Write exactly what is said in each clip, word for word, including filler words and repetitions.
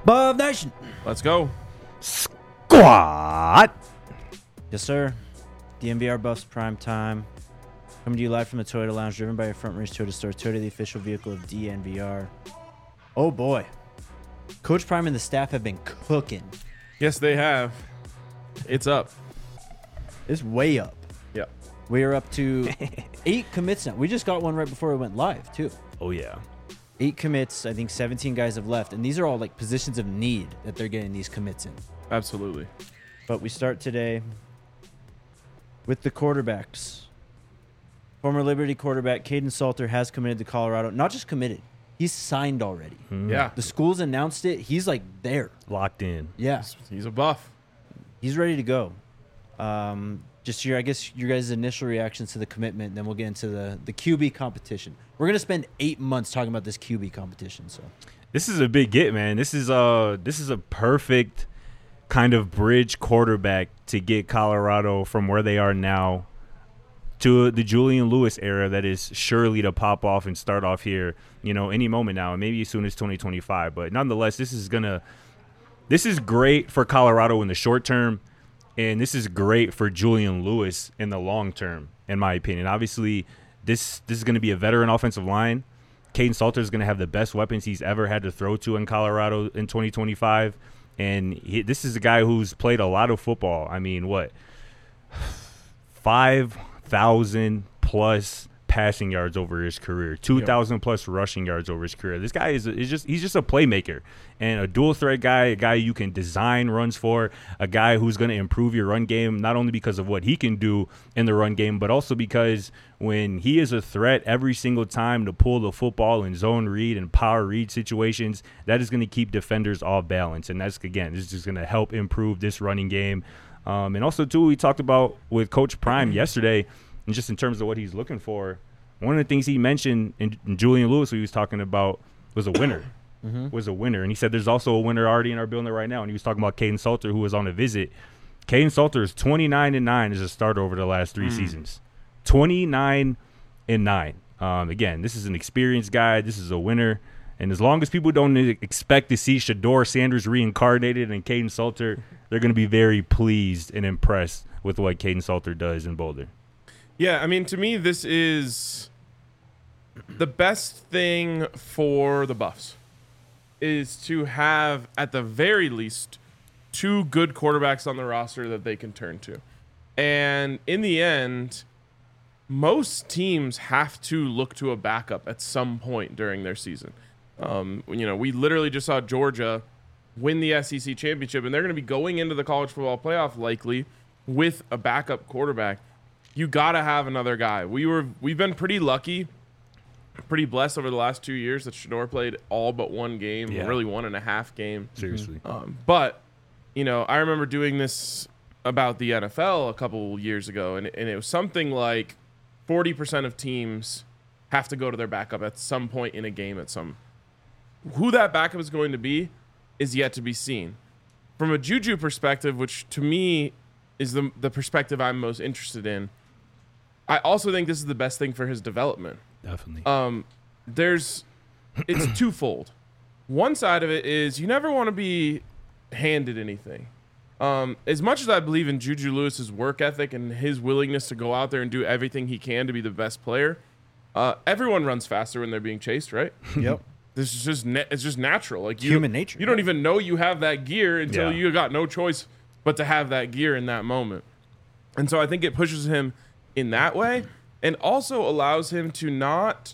Buff Nation. Let's go. Squad. Yes, sir. D N V R Buffs Prime Time. Coming to you live from the Toyota Lounge, driven by your Front Range Toyota Store. Toyota, the official vehicle of D N V R. Oh, boy. Coach Prime and the staff have been cooking. Yes, they have. It's up. It's way up. Yeah. We are up to eight commits now. We just got one right before we went live, too. Oh, yeah. Eight commits. I think seventeen guys have left. And these are all like positions of need that they're getting these commits in. Absolutely. But we start today with the quarterbacks. Former Liberty quarterback Caden Salter has committed to Colorado. Not just committed. He's signed already. Mm. Yeah. The school's announced it. He's like there. Locked in. Yeah. He's a buff. He's ready to go. Um, just your, I guess, your guys' initial reactions to the commitment, and then we'll get into the, the Q B competition. We're going to spend eight months talking about this Q B competition. So This is a big get, man. This is uh this is a perfect kind of bridge quarterback to get Colorado from where they are now to the Julian Lewis era that is surely to pop off and start off here, you know, any moment now, and maybe as soon as twenty twenty-five. But nonetheless, this is gonna this is great for Colorado in the short term, and this is great for Julian Lewis in the long term, in my opinion. Obviously, this this is gonna be a veteran offensive line. Caden Salter is gonna have the best weapons he's ever had to throw to in Colorado in twenty twenty-five, and he, this is a guy who's played a lot of football. I mean, what five thousand plus passing yards over his career, two thousand yep. plus rushing yards over his career. This guy is, is just he's just a playmaker and a dual threat guy, a guy you can design runs for, a guy who's going to improve your run game, not only because of what he can do in the run game, but also because when he is a threat every single time to pull the football in zone read and power read situations, that is going to keep defenders off balance. And that's, again, this is just going to help improve this running game. Um, and also, too, we talked about with Coach Prime yesterday, and just in terms of what he's looking for, one of the things he mentioned in, in Julian Lewis, who he was talking about, was a winner. Mm-hmm. Was a winner. And he said there's also a winner already in our building right now. And he was talking about Caden Salter, who was on a visit. Caden Salter is twenty-nine and nine as a starter over the last three mm. seasons. twenty-nine and nine. Um, again, this is an experienced guy. This is a winner. And as long as people don't expect to see Shedeur Sanders reincarnated and Caden Salter, they're going to be very pleased and impressed with what Caden Salter does in Boulder. Yeah, I mean, to me, this is the best thing for the Buffs is to have, at the very least, two good quarterbacks on the roster that they can turn to. And in the end, most teams have to look to a backup at some point during their season. Um, you know, we literally just saw Georgia win the S E C championship, and they're going to be going into the college football playoff likely with a backup quarterback. You got to have another guy. We were, we've been pretty lucky, pretty blessed over the last two years that Shedeur played all but one game, yeah. really one and a half game. Seriously. Um, but, you know, I remember doing this about the N F L a couple years ago, and, and it was something like forty percent of teams have to go to their backup at some point in a game at some. Who that backup is going to be is yet to be seen. From a Juju perspective, which to me is the the perspective I'm most interested in, I also think this is the best thing for his development. Definitely. Um, there's, it's twofold. One side of it is you never want to be handed anything. Um, as much as I believe in Juju Lewis's work ethic and his willingness to go out there and do everything he can to be the best player, uh, everyone runs faster when they're being chased, right? Yep. This is just na- it's just natural. Like you, human nature. You don't even know you have that gear until yeah. you got no choice but to have that gear in that moment. And so I think it pushes him in that way, and also allows him to not.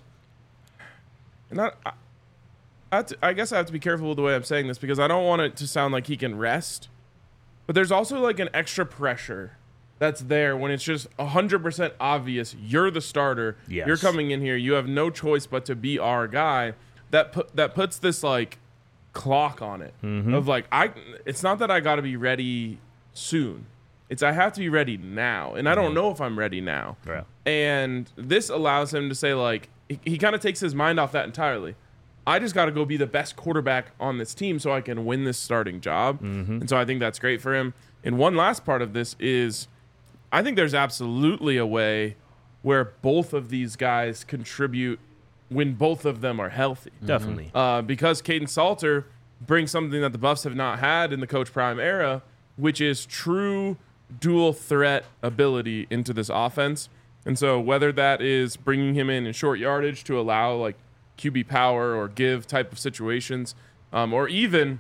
Not. I, I, have to, I guess I have to be careful with the way I'm saying this because I don't want it to sound like he can rest. But there's also like an extra pressure that's there when it's just one hundred percent obvious you're the starter. Yes. You're coming in here. You have no choice but to be our guy. That put, that puts this like clock on it mm-hmm. of like I. It's not that I got to be ready soon. It's I have to be ready now, and I don't know if I'm ready now. Yeah. And this allows him to say like he, he kind of takes his mind off that entirely. I just got to go be the best quarterback on this team so I can win this starting job. Mm-hmm. And so I think that's great for him. And one last part of this is I think there's absolutely a way where both of these guys contribute when both of them are healthy. Definitely. Uh, because Caden Salter bring something that the Buffs have not had in the Coach Prime era, which is true dual threat ability into this offense. And so whether that is bringing him in in short yardage to allow like Q B power or give type of situations, um, or even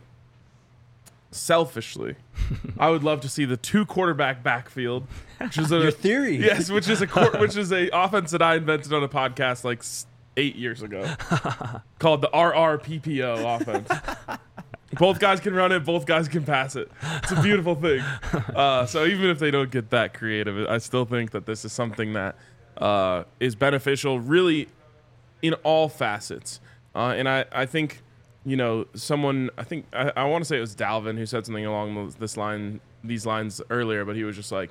selfishly, I would love to see the two quarterback backfield, which is a Your theory. Yes, which is a court, which is a offense that I invented on a podcast like s- eight years ago, called the R R P P O offense. Both guys can run it. Both guys can pass it. It's a beautiful thing. Uh, so even if they don't get that creative, I still think that this is something that uh, is beneficial, really, in all facets. Uh, and I, I think, you know, someone, I think, I, I want to say it was Dalvin who said something along this line, these lines earlier, but he was just like,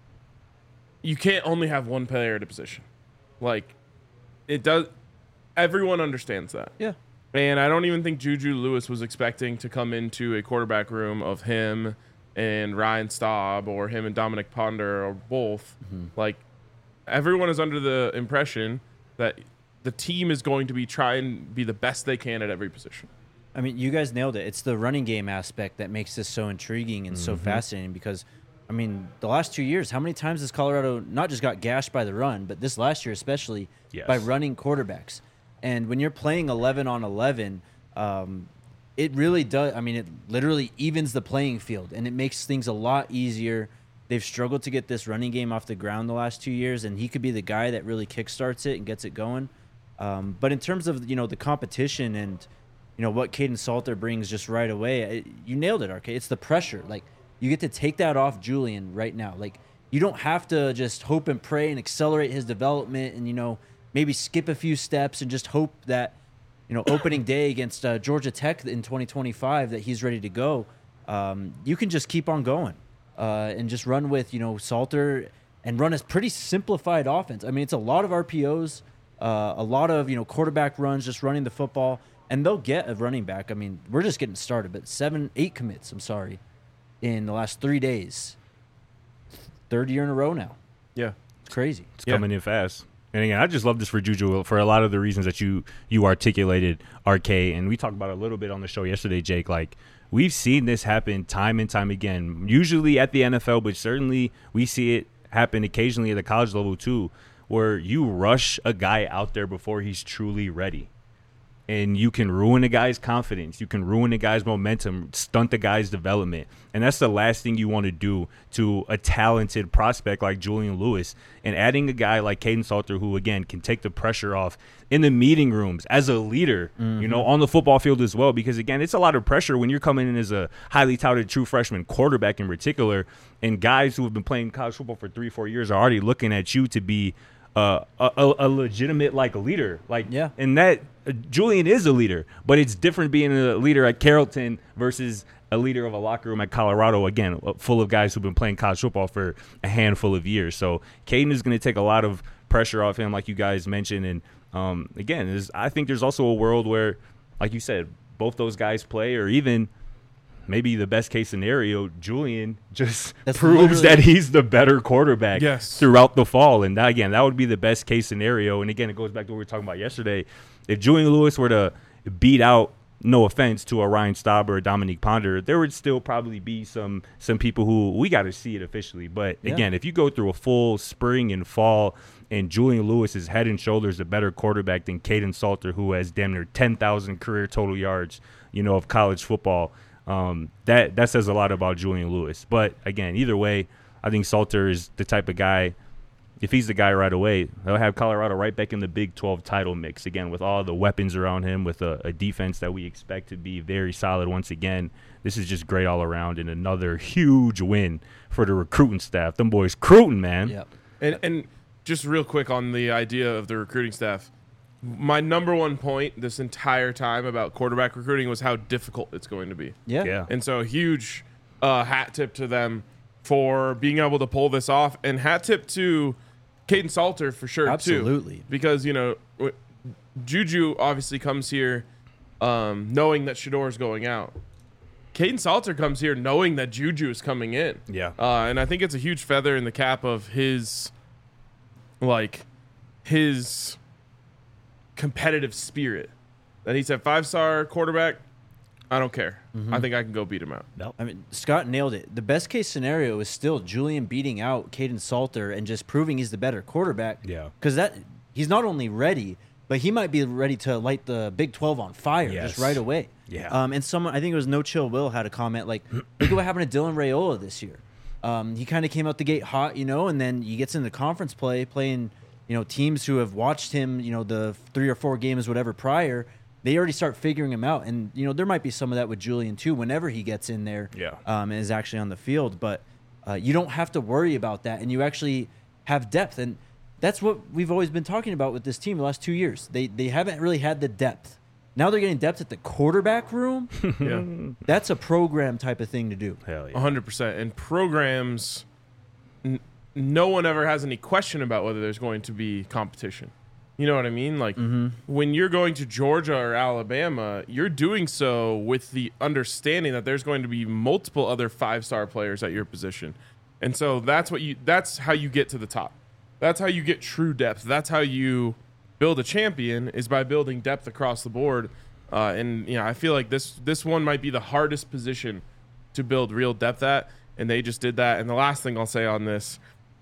you can't only have one player at a position. Like, it does, everyone understands that. Yeah. And I don't even think Juju Lewis was expecting to come into a quarterback room of him and Ryan Staub or him and Dominic Ponder or both. Mm-hmm. Like, everyone is under the impression that the team is going to be trying to be the best they can at every position. I mean, you guys nailed it. It's the running game aspect that makes this so intriguing and mm-hmm. so fascinating because, I mean, the last two years, how many times has Colorado not just got gashed by the run, but this last year especially yes. by running quarterbacks? And when you're playing eleven on eleven, um, it really does. I mean, it literally evens the playing field, and it makes things a lot easier. They've struggled to get this running game off the ground the last two years, and he could be the guy that really kickstarts it and gets it going. Um, but in terms of, you know, the competition and, you know, what Caden Salter brings just right away, it, you nailed it, R K. It's the pressure. Like, you get to take that off Julian right now. Like, you don't have to just hope and pray and accelerate his development and, you know, maybe skip a few steps and just hope that, you know, opening day against uh, Georgia Tech in twenty twenty-five that he's ready to go. Um, you can just keep on going uh, and just run with, you know, Salter and run a pretty simplified offense. I mean, it's a lot of R P Os, uh, a lot of, you know, quarterback runs, just running the football, and they'll get a running back. I mean, we're just getting started, but seven, eight commits, I'm sorry, in the last three days. Third year in a row now. Yeah. It's crazy. It's yeah. coming in fast. And again, I just love this for Juju for a lot of the reasons that you you articulated, R K. And we talked about it a little bit on the show yesterday, Jake. Like, we've seen this happen time and time again, usually at the N F L, but certainly we see it happen occasionally at the college level too, where you rush a guy out there before he's truly ready. And you can ruin a guy's confidence. You can ruin a guy's momentum, stunt the guy's development. And that's the last thing you want to do to a talented prospect like Julian Lewis. And adding a guy like Caden Salter, who, again, can take the pressure off in the meeting rooms as a leader, mm-hmm. you know, on the football field as well. Because, again, it's a lot of pressure when you're coming in as a highly touted true freshman quarterback in particular. And guys who have been playing college football for three, four years are already looking at you to be Uh, a, a legitimate like leader, like yeah, and that uh, Julian is a leader, but it's different being a leader at Carrollton versus a leader of a locker room at Colorado. Again, full of guys who've been playing college football for a handful of years. So Caden is going to take a lot of pressure off him, like you guys mentioned. And um, again, is I think there's also a world where, like you said, both those guys play, or even maybe the best case scenario, Julian just That's proves that he's the better quarterback yes. throughout the fall. And that, again, that would be the best case scenario. And again, it goes back to what we were talking about yesterday. If Julian Lewis were to beat out, no offense, to a Ryan Staub or a Dominique Ponder, there would still probably be some some people who we got to see it officially. But yeah. again, if you go through a full spring and fall and Julian Lewis is head and shoulders a better quarterback than Caden Salter, who has damn near ten thousand career total yards, you know, of college football, Um, that that says a lot about Julian Lewis. But again, either way, I think Salter is the type of guy, if he's the guy right away, they'll have Colorado right back in the Big twelve title mix again, with all the weapons around him, with a, a defense that we expect to be very solid once again. This is just great all around, and another huge win for the recruiting staff. Them boys recruiting, man. Yep. And, and just real quick on the idea of the recruiting staff, my number one point this entire time about quarterback recruiting was how difficult it's going to be. Yeah. Yeah. And so a huge uh, hat tip to them for being able to pull this off, and hat tip to Caden Salter for sure, Absolutely. too. Because, you know, w- Juju obviously comes here um, knowing that Shedor's going out. Caden Salter comes here knowing that Juju is coming in. Yeah. Uh, and I think it's a huge feather in the cap of his, like, his competitive spirit. That he's a five-star quarterback I don't care. Mm-hmm. I think I can go beat him out. Nope. I mean, Scott nailed it. The best case scenario is still Julian beating out Caden Salter and just proving he's the better quarterback. Yeah. Because that he's not only ready, but he might be ready to light the Big twelve on fire Yes. just right away. Yeah. Um, and someone, I think it was No Chill Will, had a comment like, look at what happened to Dylan Raiola this year. Um, he kind of came out the gate hot, you know, and then he gets into conference play, playing, you know, teams who have watched him, you know, the three or four games, whatever, prior. They already start figuring him out. And, you know, there might be some of that with Julian, too, whenever he gets in there Yeah. um, and is actually on the field. But uh, you don't have to worry about that. And you actually have depth. And that's what we've always been talking about with this team the last two years. They, they haven't really had the depth. Now they're getting depth at the quarterback room. Yeah. That's a program type of thing to do. Hell yeah. one hundred percent. And programs, n- no one ever has any question about whether there's going to be competition. You know what I mean? Like when you're going to Georgia or Alabama, you're doing so with the understanding that there's going to be multiple other five-star players at your position. And so that's what you that's how you get to the top. That's how you get true depth. That's how you build a champion, is by building depth across the board. Uh, and you know, I feel like this this one might be the hardest position to build real depth at, and they just did that. And the last thing I'll say on this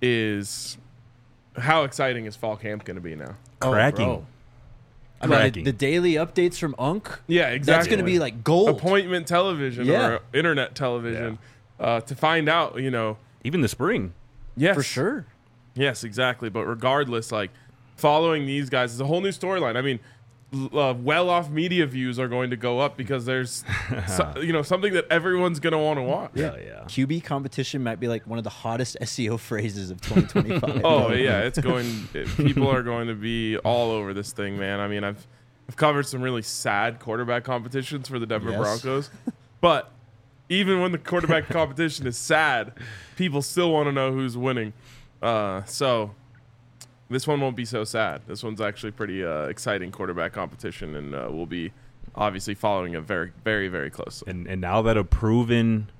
is, how exciting is fall camp going to be now? Cracking. Oh, bro. I mean, the, Cracking. the daily updates from Unk, Yeah, exactly. that's going to be like gold. appointment television Yeah. or internet television uh, to find out, you know. Even the spring. Yes. For sure. Yes, exactly. But regardless, like, following these guys is a whole new storyline. I mean, l- uh, well-off media views are going to go up because there's, so, you know, something that everyone's going to want to watch. Hell yeah. Q B competition might be like one of the hottest S E O phrases of twenty twenty-five. Oh yeah, it's going. It, people are going to be all over this thing, man. I mean, I've I've covered some really sad quarterback competitions for the Denver Yes. Broncos, but even when the quarterback competition is sad, people still want to know who's winning. Uh, so this one won't be so sad. This one's actually pretty uh, exciting quarterback competition, and uh, we'll be obviously following it very, very, very closely. And and now that a proven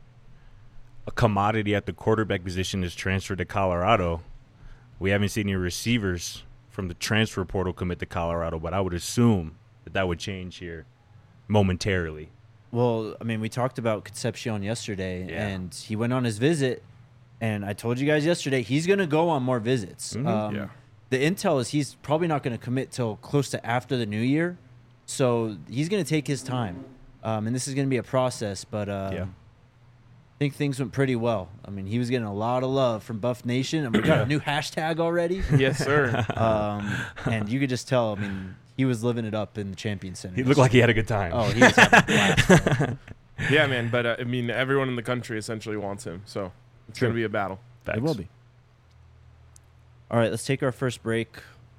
a commodity at the quarterback position is transferred to Colorado, we haven't seen any receivers from the transfer portal commit to Colorado, but I would assume that that would change here momentarily. Well, I mean, we talked about Concepcion yesterday, Yeah. and he went on his visit, and I told you guys yesterday he's going to go on more visits. Mhm. Um, Yeah. The intel is he's probably not going to commit till close to after the new year, so he's going to take his time, um, and this is going to be a process. But um, Yeah. I think things went pretty well. I mean, he was getting a lot of love from Buff Nation, and we got a new hashtag already. Yes, sir. Um, and you could just tell. I mean, he was living it up in the Champion Center. He looked like he had a good time. Oh, he was having a blast. man. Yeah, man. But uh, I mean, everyone in the country essentially wants him, so it's True. going to be a battle. Facts. It will be. All right, let's take our first break,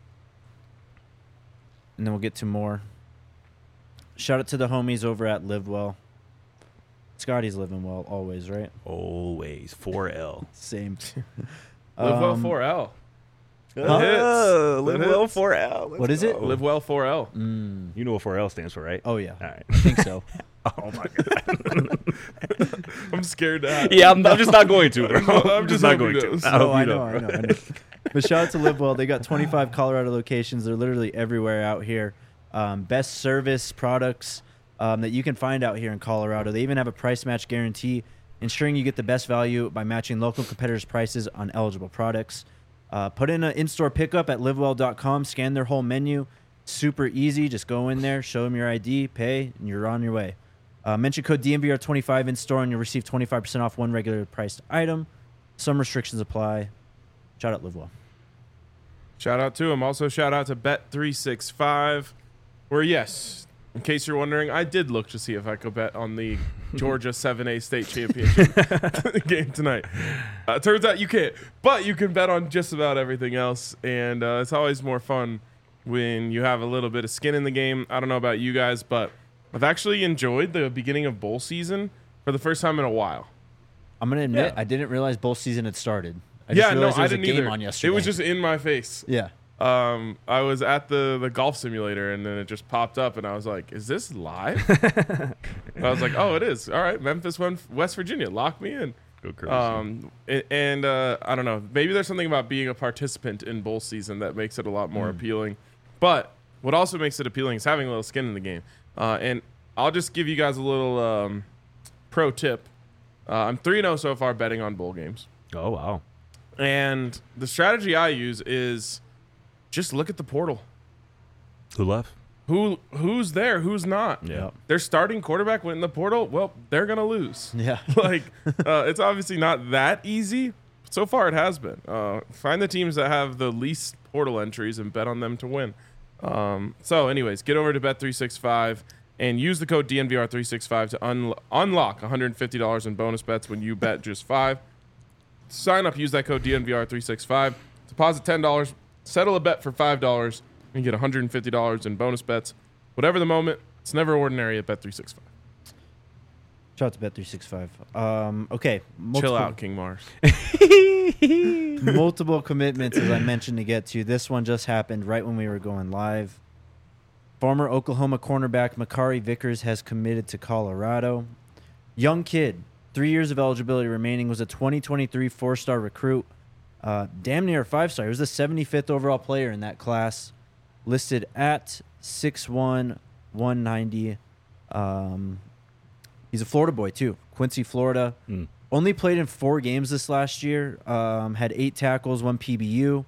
and then we'll get to more. Shout out to the homies over at Live Well. Scotty's living well always, right? Always four L. Same. Live well Um, four L. Huh? That hits. Oh, That live well hits. four L. Let's What is it? go. Live well four L. Mm. You know what four L stands for, right? Oh, yeah. All right. I think so. Oh my god. I'm scared to have. Yeah, I'm, I'm just not going to. Bro. I'm I'm, just just not hoping going it to. is. I hope Oh, I you know, don't, I bro. know, I know. But shout out to Live Well. They got twenty-five Colorado locations. They're literally everywhere out here. Um, best service products um, that you can find out here in Colorado. They even have a price match guarantee, ensuring you get the best value by matching local competitors' prices on eligible products. Uh, put in an in-store pickup at livewell dot com. Scan their whole menu. Super easy. Just go in there, show them your I D, pay, and you're on your way. Uh, mention code D N V R twenty-five in store, and you'll receive twenty-five percent off one regular priced item. Some restrictions apply. Shout out Live Well. Shout out to him. Also, shout out to Bet three sixty-five, where, yes, in case you're wondering, I did look to see if I could bet on the Georgia seven A state championship game tonight. Uh, turns out you can't, but you can bet on just about everything else, and uh, it's always more fun when you have a little bit of skin in the game. I don't know about you guys, but I've actually enjoyed the beginning of bowl season for the first time in a while. I'm gonna admit Yeah. I didn't realize bowl season had started. I yeah, just no, realized there I was didn't a game either. on yesterday. It was just in my face. yeah. Um, I was at the, the golf simulator, and then it just popped up, and I was like, "Is this live?" I was like, "Oh, it is. All right, Memphis, West Virginia, lock me in." Go crazy. Um, a- and uh, I don't know, maybe there's something about being a participant in bowl season that makes it a lot more appealing. But what also makes it appealing is having a little skin in the game. Uh, and I'll just give you guys a little um, pro tip. Uh, I'm three and oh so far betting on bowl games. Oh, wow. And the strategy I use is just look at the portal. Who left? Who Who's there? Who's not? Yeah. Their starting quarterback went in the portal. Well, they're going to lose. Yeah. like, uh, it's obviously not that easy. So far, it has been. Uh, find the teams that have the least portal entries and bet on them to win. Um, so, anyways, get over to Bet three sixty-five and use the code D N V R three sixty-five to un- unlock one hundred fifty dollars in bonus bets when you bet just five. Sign up, use that code D N V R three sixty-five, deposit ten dollars, settle a bet for five dollars, and get one hundred fifty dollars in bonus bets. Whatever the moment, it's never ordinary at Bet three sixty-five. Shout out to Bet three sixty-five. Um, okay. Chill out, King Mars. Multiple commitments, as I mentioned, to get to. This one just happened right when we were going live. Former Oklahoma cornerback Makari Vickers has committed to Colorado. Young kid, three years of eligibility remaining, was a twenty twenty-three four-star recruit. Uh, damn near a five-star. He was the seventy-fifth overall player in that class, listed at six one, one ninety. Um, he's a Florida boy, too. Quincy, Florida. Mm. Only played in four games this last year. Um, had eight tackles, one P B U.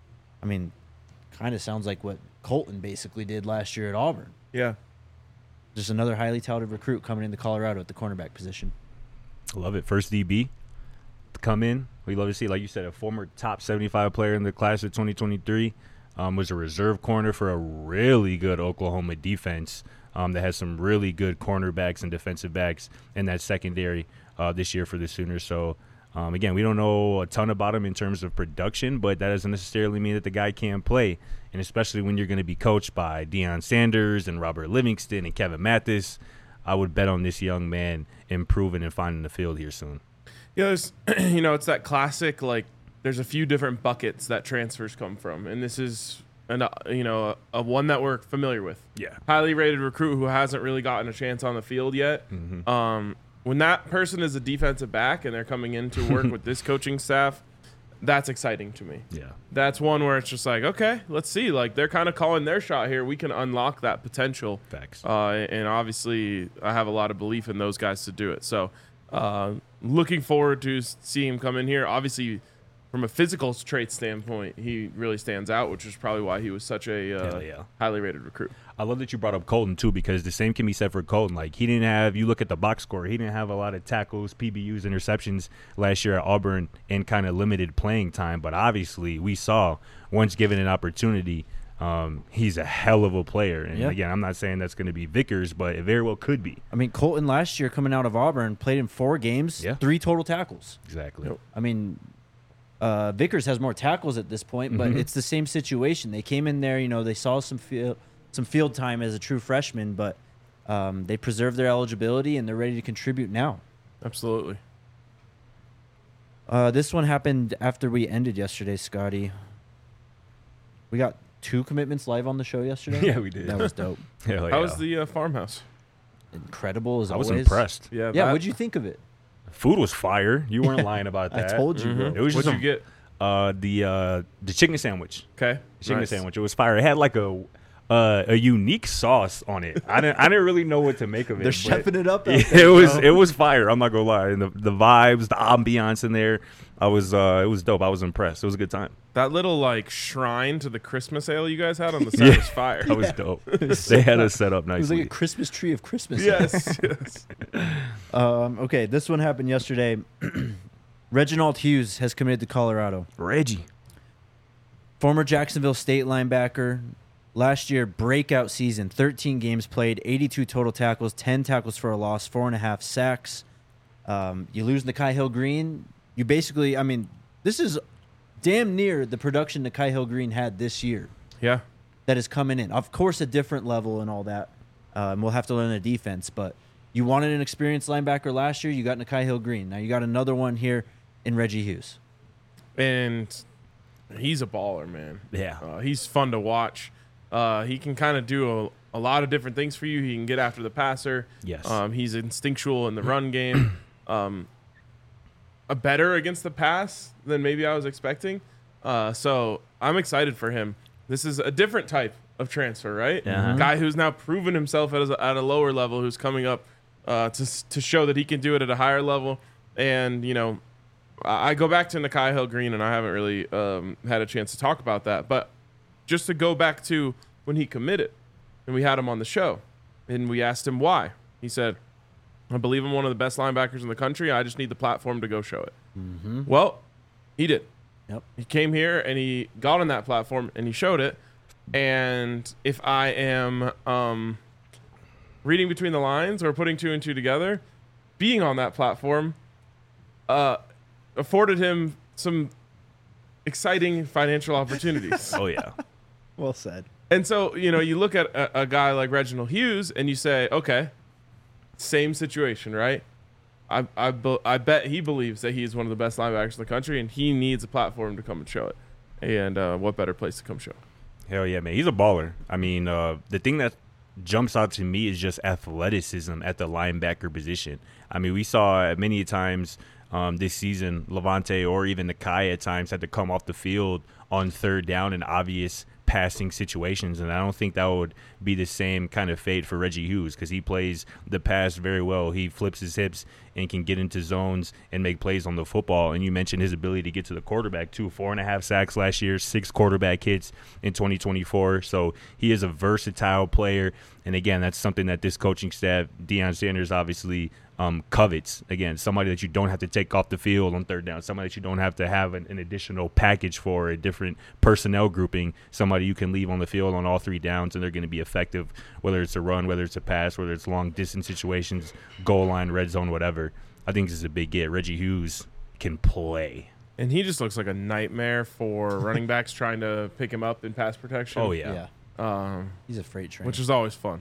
I mean, kind of sounds like what Colton basically did last year at Auburn. Yeah. Just another highly touted recruit coming into Colorado at the cornerback position. Love it. First D B to come in. We love to see, like you said, a former top seventy-five player in the class of twenty twenty-three. Um, was a reserve corner for a really good Oklahoma defense um, that has some really good cornerbacks and defensive backs in that secondary uh, this year for the Sooners. So, um, again, we don't know a ton about him in terms of production, but that doesn't necessarily mean that the guy can't play. And especially when you're going to be coached by Deion Sanders and Robert Livingston and Kevin Mathis, I would bet on this young man improving and finding the field here soon. Yeah, there's, you know, it's that classic, like, there's a few different buckets that transfers come from. And this is, an, uh, you know, a, a one that we're familiar with. Yeah. Highly rated recruit who hasn't really gotten a chance on the field yet. Mm-hmm. Um, when that person is a defensive back and they're coming in to work with this coaching staff, that's exciting to me. Yeah. That's one where it's just like, okay, let's see. Like, they're kind of calling their shot here. We can unlock that potential. Facts. Uh, and obviously, I have a lot of belief in those guys to do it. So, uh, looking forward to seeing him come in here. Obviously, from a physical trait standpoint, he really stands out, which is probably why he was such a uh, yeah. highly rated recruit. I love that you brought up Colton, too, because the same can be said for Colton. Like, he didn't have – you look at the box score, he didn't have a lot of tackles, P B Us, interceptions last year at Auburn and kind of limited playing time. But obviously, we saw once given an opportunity, um, he's a hell of a player. And, yeah. again, I'm not saying that's going to be Vickers, but it very well could be. I mean, Colton last year coming out of Auburn played in four games, Yeah. three total tackles. Exactly. Yep. I mean, uh, Vickers has more tackles at this point, but Mhm. it's the same situation. They came in there, you know, they saw some field, some field time as a true freshman, but um, they preserved their eligibility and they're ready to contribute now. Absolutely. Uh, this one happened after we ended yesterday, Scotty. We got two commitments live on the show yesterday. Yeah, we did. That was dope. Hell How yeah. was the uh, farmhouse? Incredible as I was always. impressed. Yeah, Yeah, that- what'd you think of it? Food was fire. You weren't lying about I that. told you, bro. Mhm. It was just What'd you some- get? Uh, the uh, the chicken sandwich. Okay. Chicken Nice. sandwich. It was fire. It had like a uh, a unique sauce on it. I didn't I didn't really know what to make of it. They're but chefing it up. out It, there, was bro. it was fire. I'm not gonna lie. And the the vibes, the ambiance in there, I was uh, it was dope. I was impressed. It was a good time. That little, like, shrine to the Christmas ale you guys had on the side Yeah. was fire. That was dope. They had us set up It was nicely. like a Christmas tree of Christmas. yes. yes. Um, okay, this one happened yesterday. Reginald Hughes has committed to Colorado. Reggie. Former Jacksonville State linebacker. Last year, breakout season. thirteen games played, eighty-two total tackles, ten tackles for a loss, four and a half sacks. Um, you lose Nakai Hill Green. You basically, I mean, this is damn near the production Nakai Hill Green had this year Yeah. that is coming in. Of course, a different level and all that. Um, we'll have to learn the defense, but you wanted an experienced linebacker last year. You got Nakai Hill Green. Now you got another one here in Reggie Hughes. And he's a baller, man. Yeah. Uh, he's fun to watch. Uh, he can kind of do a, a lot of different things for you. He can get after the passer. Yes. Um, he's instinctual in the run game. Um, a better against the pass than maybe I was expecting. Uh, so I'm excited for him. This is a different type of transfer, right? Yeah. Guy who's now proven himself at a, at a lower level, who's coming up uh, to s- to show that he can do it at a higher level. And you know, I, I go back to Nakai Hill Green, and I haven't really um, had a chance to talk about that. But just to go back to when he committed, and we had him on the show, and we asked him why. He said, "I believe I'm one of the best linebackers in the country. I just need the platform to go show it." Mm-hmm. Well, he did. Yep. He came here and he got on that platform and he showed it. And if I am um, reading between the lines or putting two and two together, being on that platform uh, afforded him some exciting financial opportunities. Oh yeah. Well said. And so, you know, you look at a, a guy like Reginald Hughes and you say, okay, same situation, right? I I, be, I bet he believes that he's one of the best linebackers in the country, and he needs a platform to come and show it. And uh, what better place to come show? Hell yeah, man. He's a baller. I mean, uh, the thing that jumps out to me is just athleticism at the linebacker position. I mean, we saw many times um, this season, Levante or even Nakai at times had to come off the field on third down in obvious passing situations, and I don't think that would be the same kind of fate for Reggie Hughes because he plays the pass very well. He flips his hips and can get into zones and make plays on the football. And you mentioned his ability to get to the quarterback too. Four and a half sacks last year, six quarterback hits in twenty twenty-four. So he is a versatile player. And again, that's something that this coaching staff, Deion Sanders, obviously um, covets. Again, somebody that you don't have to take off the field on third down, somebody that you don't have to have an, an additional package for, a different personnel grouping, somebody you can leave on the field on all three downs and they're going to be effective, whether it's a run, whether it's a pass, whether it's long distance situations, goal line, red zone, whatever. I think this is a big get. Reggie Hughes can play. And he just looks like a nightmare for running backs trying to pick him up in pass protection. Oh, yeah. Yeah. Um, He's a freight train. which is always fun.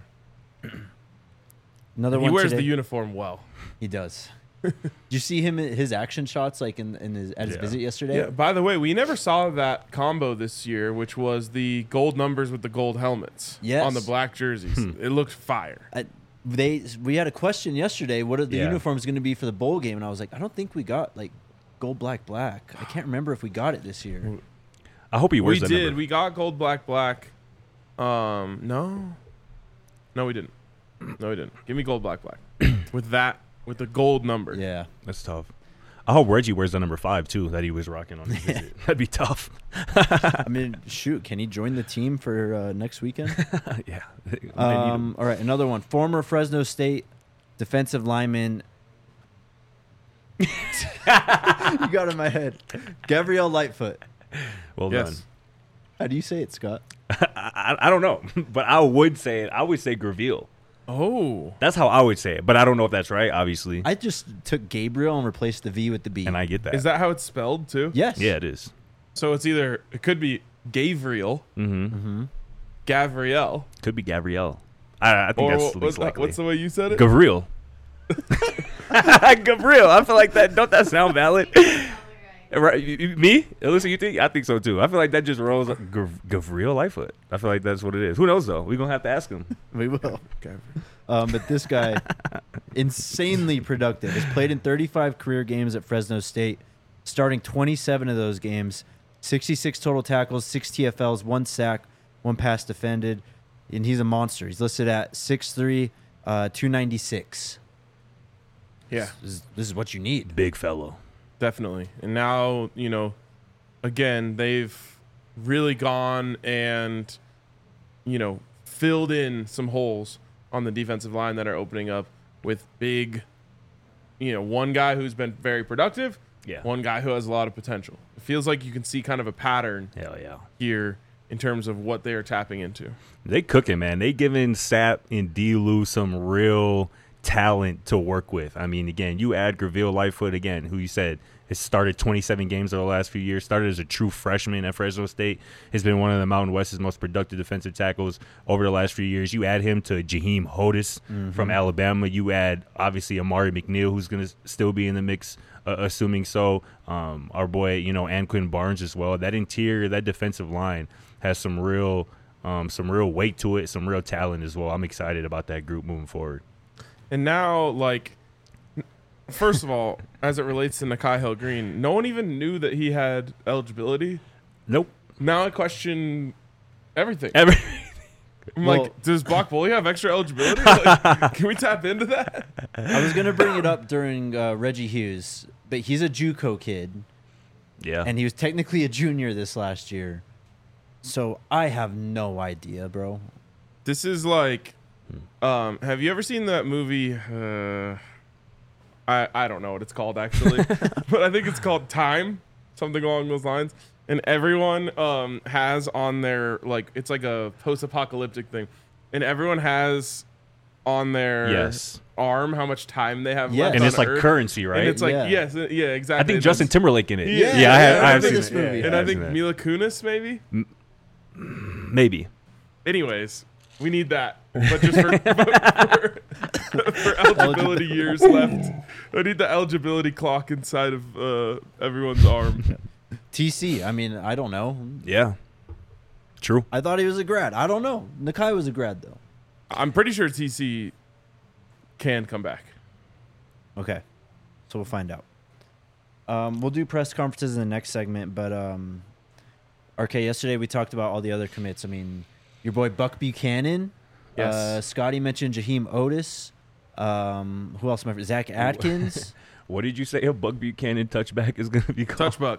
Another He one wears today. the uniform well. He does. Did you see him in his action shots like in, in his, at his Yeah. visit yesterday? Yeah. By the way, we never saw that combo this year, which was the gold numbers with the gold helmets Yes. on the black jerseys. It looked fire. I, they we had a question yesterday. What are the Yeah. uniforms going to be for the bowl game? And I was like, I don't think we got like gold, black, black. I can't remember if we got it this year. I hope he wears We that did. number. We got gold, black, black. Um, no, no, we didn't. No, we didn't. Give me gold, black, black with that with the gold number. Yeah. That's tough. I hope Reggie wears the number five, too, that he was rocking on his visit. That'd be tough. I mean, shoot, can he join the team for uh, next weekend? yeah. Um, all right, another one. Former Fresno State defensive lineman. You got it in my head. Gabrielle Lightfoot. Well Yes. done. How do you say it, Scott? I, I, I don't know, but I would say it. I would say Graville. Oh, That's how I would say it, but I don't know if that's right, obviously. I just took Gabriel and replaced the V with the B. and I get that. is that how it's spelled too? Yes. Yeah, it is. So it's either it could be Gabriel, Mm-hmm. Mm-hmm. Gavriel, Could be Gabrielle. I, I think or that's what- the what's, least that, likely. what's the way you said it? Gabriel. Gabriel. I feel like that. Don't that sound valid? Right, you- you- me? Alyssa, you think? I think so too. I feel like that just rolls. up. Gav- Gabriel Lightfoot. I feel like that's what it is. Who knows though? We're gonna have to ask him. We will. Gav- Um, but this guy, insanely productive, has played in thirty-five career games at Fresno State, starting twenty-seven of those games, sixty-six total tackles, six T F Ls, one sack, one pass defended, and he's a monster. He's listed at six three, uh, two ninety-six. Yeah, This is, this is what you need. Big fellow. definitely. And now, you know, again, they've really gone and, you know, filled in some holes on the defensive line that are opening up with big, you know, one guy who's been very productive, Yeah. one guy who has a lot of potential. It feels like you can see kind of a pattern Hell yeah. here in terms of what they are tapping into. They cooking, man. They giving Sapp and D-Lou some real talent to work with. I mean, again, you add Graville Lightfoot again, who you said has started twenty-seven games over the last few years, started as a true freshman at Fresno State, has been one of the Mountain West's most productive defensive tackles over the last few years. You add him to Jaheim Hodis from Alabama. You add, obviously, Amari McNeil, who's going to still be in the mix, uh, assuming so. Um, our boy, you know, Anquin Barnes as well. That interior, that defensive line has some real um, some real weight to it, some real talent as well. I'm excited about that group moving forward. And now, like, first of all, as it relates to Nakai Hill Green, no one even knew that he had eligibility. Nope. Now I question everything. Every, I'm Well- like, does Bach Bully have extra eligibility? Like, can we tap into that? I was gonna bring it up during uh, Reggie Hughes, but he's a JUCO kid, Yeah. and he was technically a junior this last year. So I have no idea, bro. This is like, um, have you ever seen that movie? Uh, I I don't know what it's called actually, but I think it's called Time, something along those lines. And everyone um, has on their, like, it's like a post-apocalyptic thing, and everyone has on their Yes. arm how much time they have Yes. left And on it's like Earth. currency, right? And it's like Yeah. yes, uh, yeah, exactly. I think And Justin it's- Timberlake in it. Yeah, yeah, I have, yeah, I I have remember seen this it. movie. Yeah, and yeah, I I've think seen it. Mila Kunis maybe. Maybe. Anyways, we need that, but just for, for, for eligibility years left. I need the eligibility clock inside of uh, everyone's arm. T C. I mean, I don't know. Yeah. True. I thought he was a grad. I don't know. Nakai was a grad though. I'm pretty sure T C can come back. Okay, so we'll find out. Um, we'll do press conferences in the next segment, but um, R K, yesterday we talked about all the other commits. I mean, your boy Buck Buchanan. Yes. Uh, Scotty mentioned Jaheim Otis. Um, who else? Am I, Zach Atkins. What did you say a Buck Buchanan touchback is going to be called? Touch buck.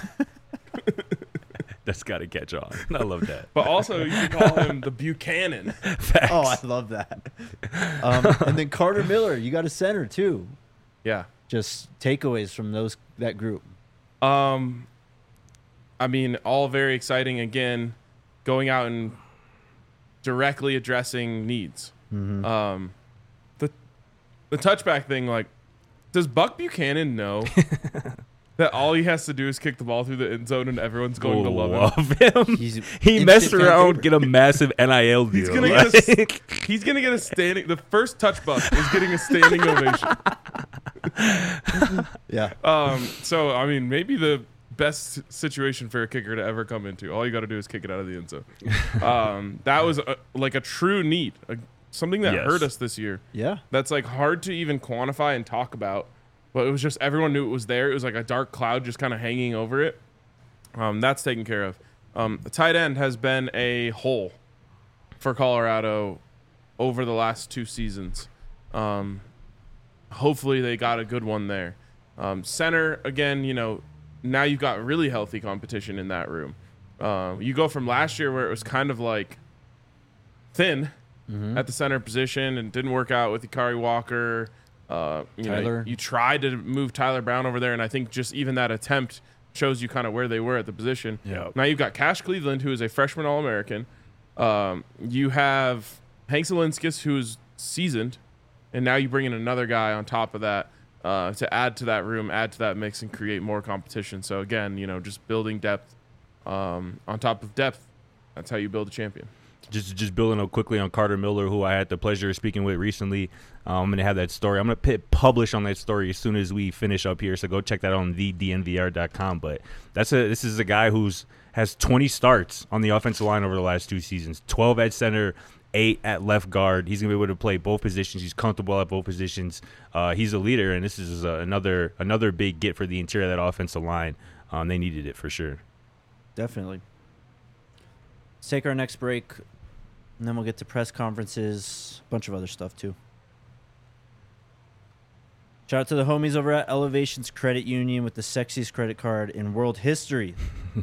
That's got to catch on. I love that. But also, you can call him the Buchanan. Facts. Oh, I love that. Um, and then Carter Miller. You got a center too. Yeah. Just takeaways from those that group. Um, I mean, all very exciting. Again, going out and directly addressing needs. Mm-hmm. Um, the the touchback thing, like, does Buck Buchanan know that all he has to do is kick the ball through the end zone and everyone's going to love him? love him. He's He instant messed fan around, favorite. get a massive N I L deal. He's gonna get a, Like- s- he's gonna get a standing. The first touch buck is getting a standing ovation. Yeah. Um, so I mean, maybe the best situation for a kicker to ever come into. All you got to do is kick it out of the end zone. Um, that was a, like a true need, a, something that Yes. hurt us this year. Yeah. That's like hard to even quantify and talk about, but it was just everyone knew it was there. It was like a dark cloud just kind of hanging over it. Um, that's taken care of. Um, the tight end has been a hole for Colorado over the last two seasons. Um, hopefully they got a good one there. Um, center, again, you know, now you've got really healthy competition in that room. Um, you go from last year where it was kind of like thin Mm-hmm. at the center position and didn't work out with Ikari Walker. Uh, you Tyler. know, you tried to move Tyler Brown over there, and I think just even that attempt shows you kind of where they were at the position. Yeah. Now you've got Cash Cleveland, who is a freshman All-American. Um, you have Hank Zielinskis, who's seasoned, and now you bring in another guy on top of that uh, to add to that room, add to that mix, and create more competition. So again, you know, just building depth um, on top of depth. That's how you build a champion. Just just building up quickly on Carter Miller, who I had the pleasure of speaking with recently. Um, I'm going to have that story. I'm going to hit publish on that story as soon as we finish up here. So go check that out on the D N V R dot com. But that's a this is a guy who's has twenty starts on the offensive line over the last two seasons. twelve at center, eight at left guard. He's going to be able to play both positions. He's comfortable at both positions. Uh, he's a leader, and this is uh, another another big get for the interior of that offensive line. Um, they needed it for sure. Definitely. Let's take our next break, and then we'll get to press conferences, a bunch of other stuff too. Shout out to the homies over at Elevations Credit Union with the sexiest credit card in world history.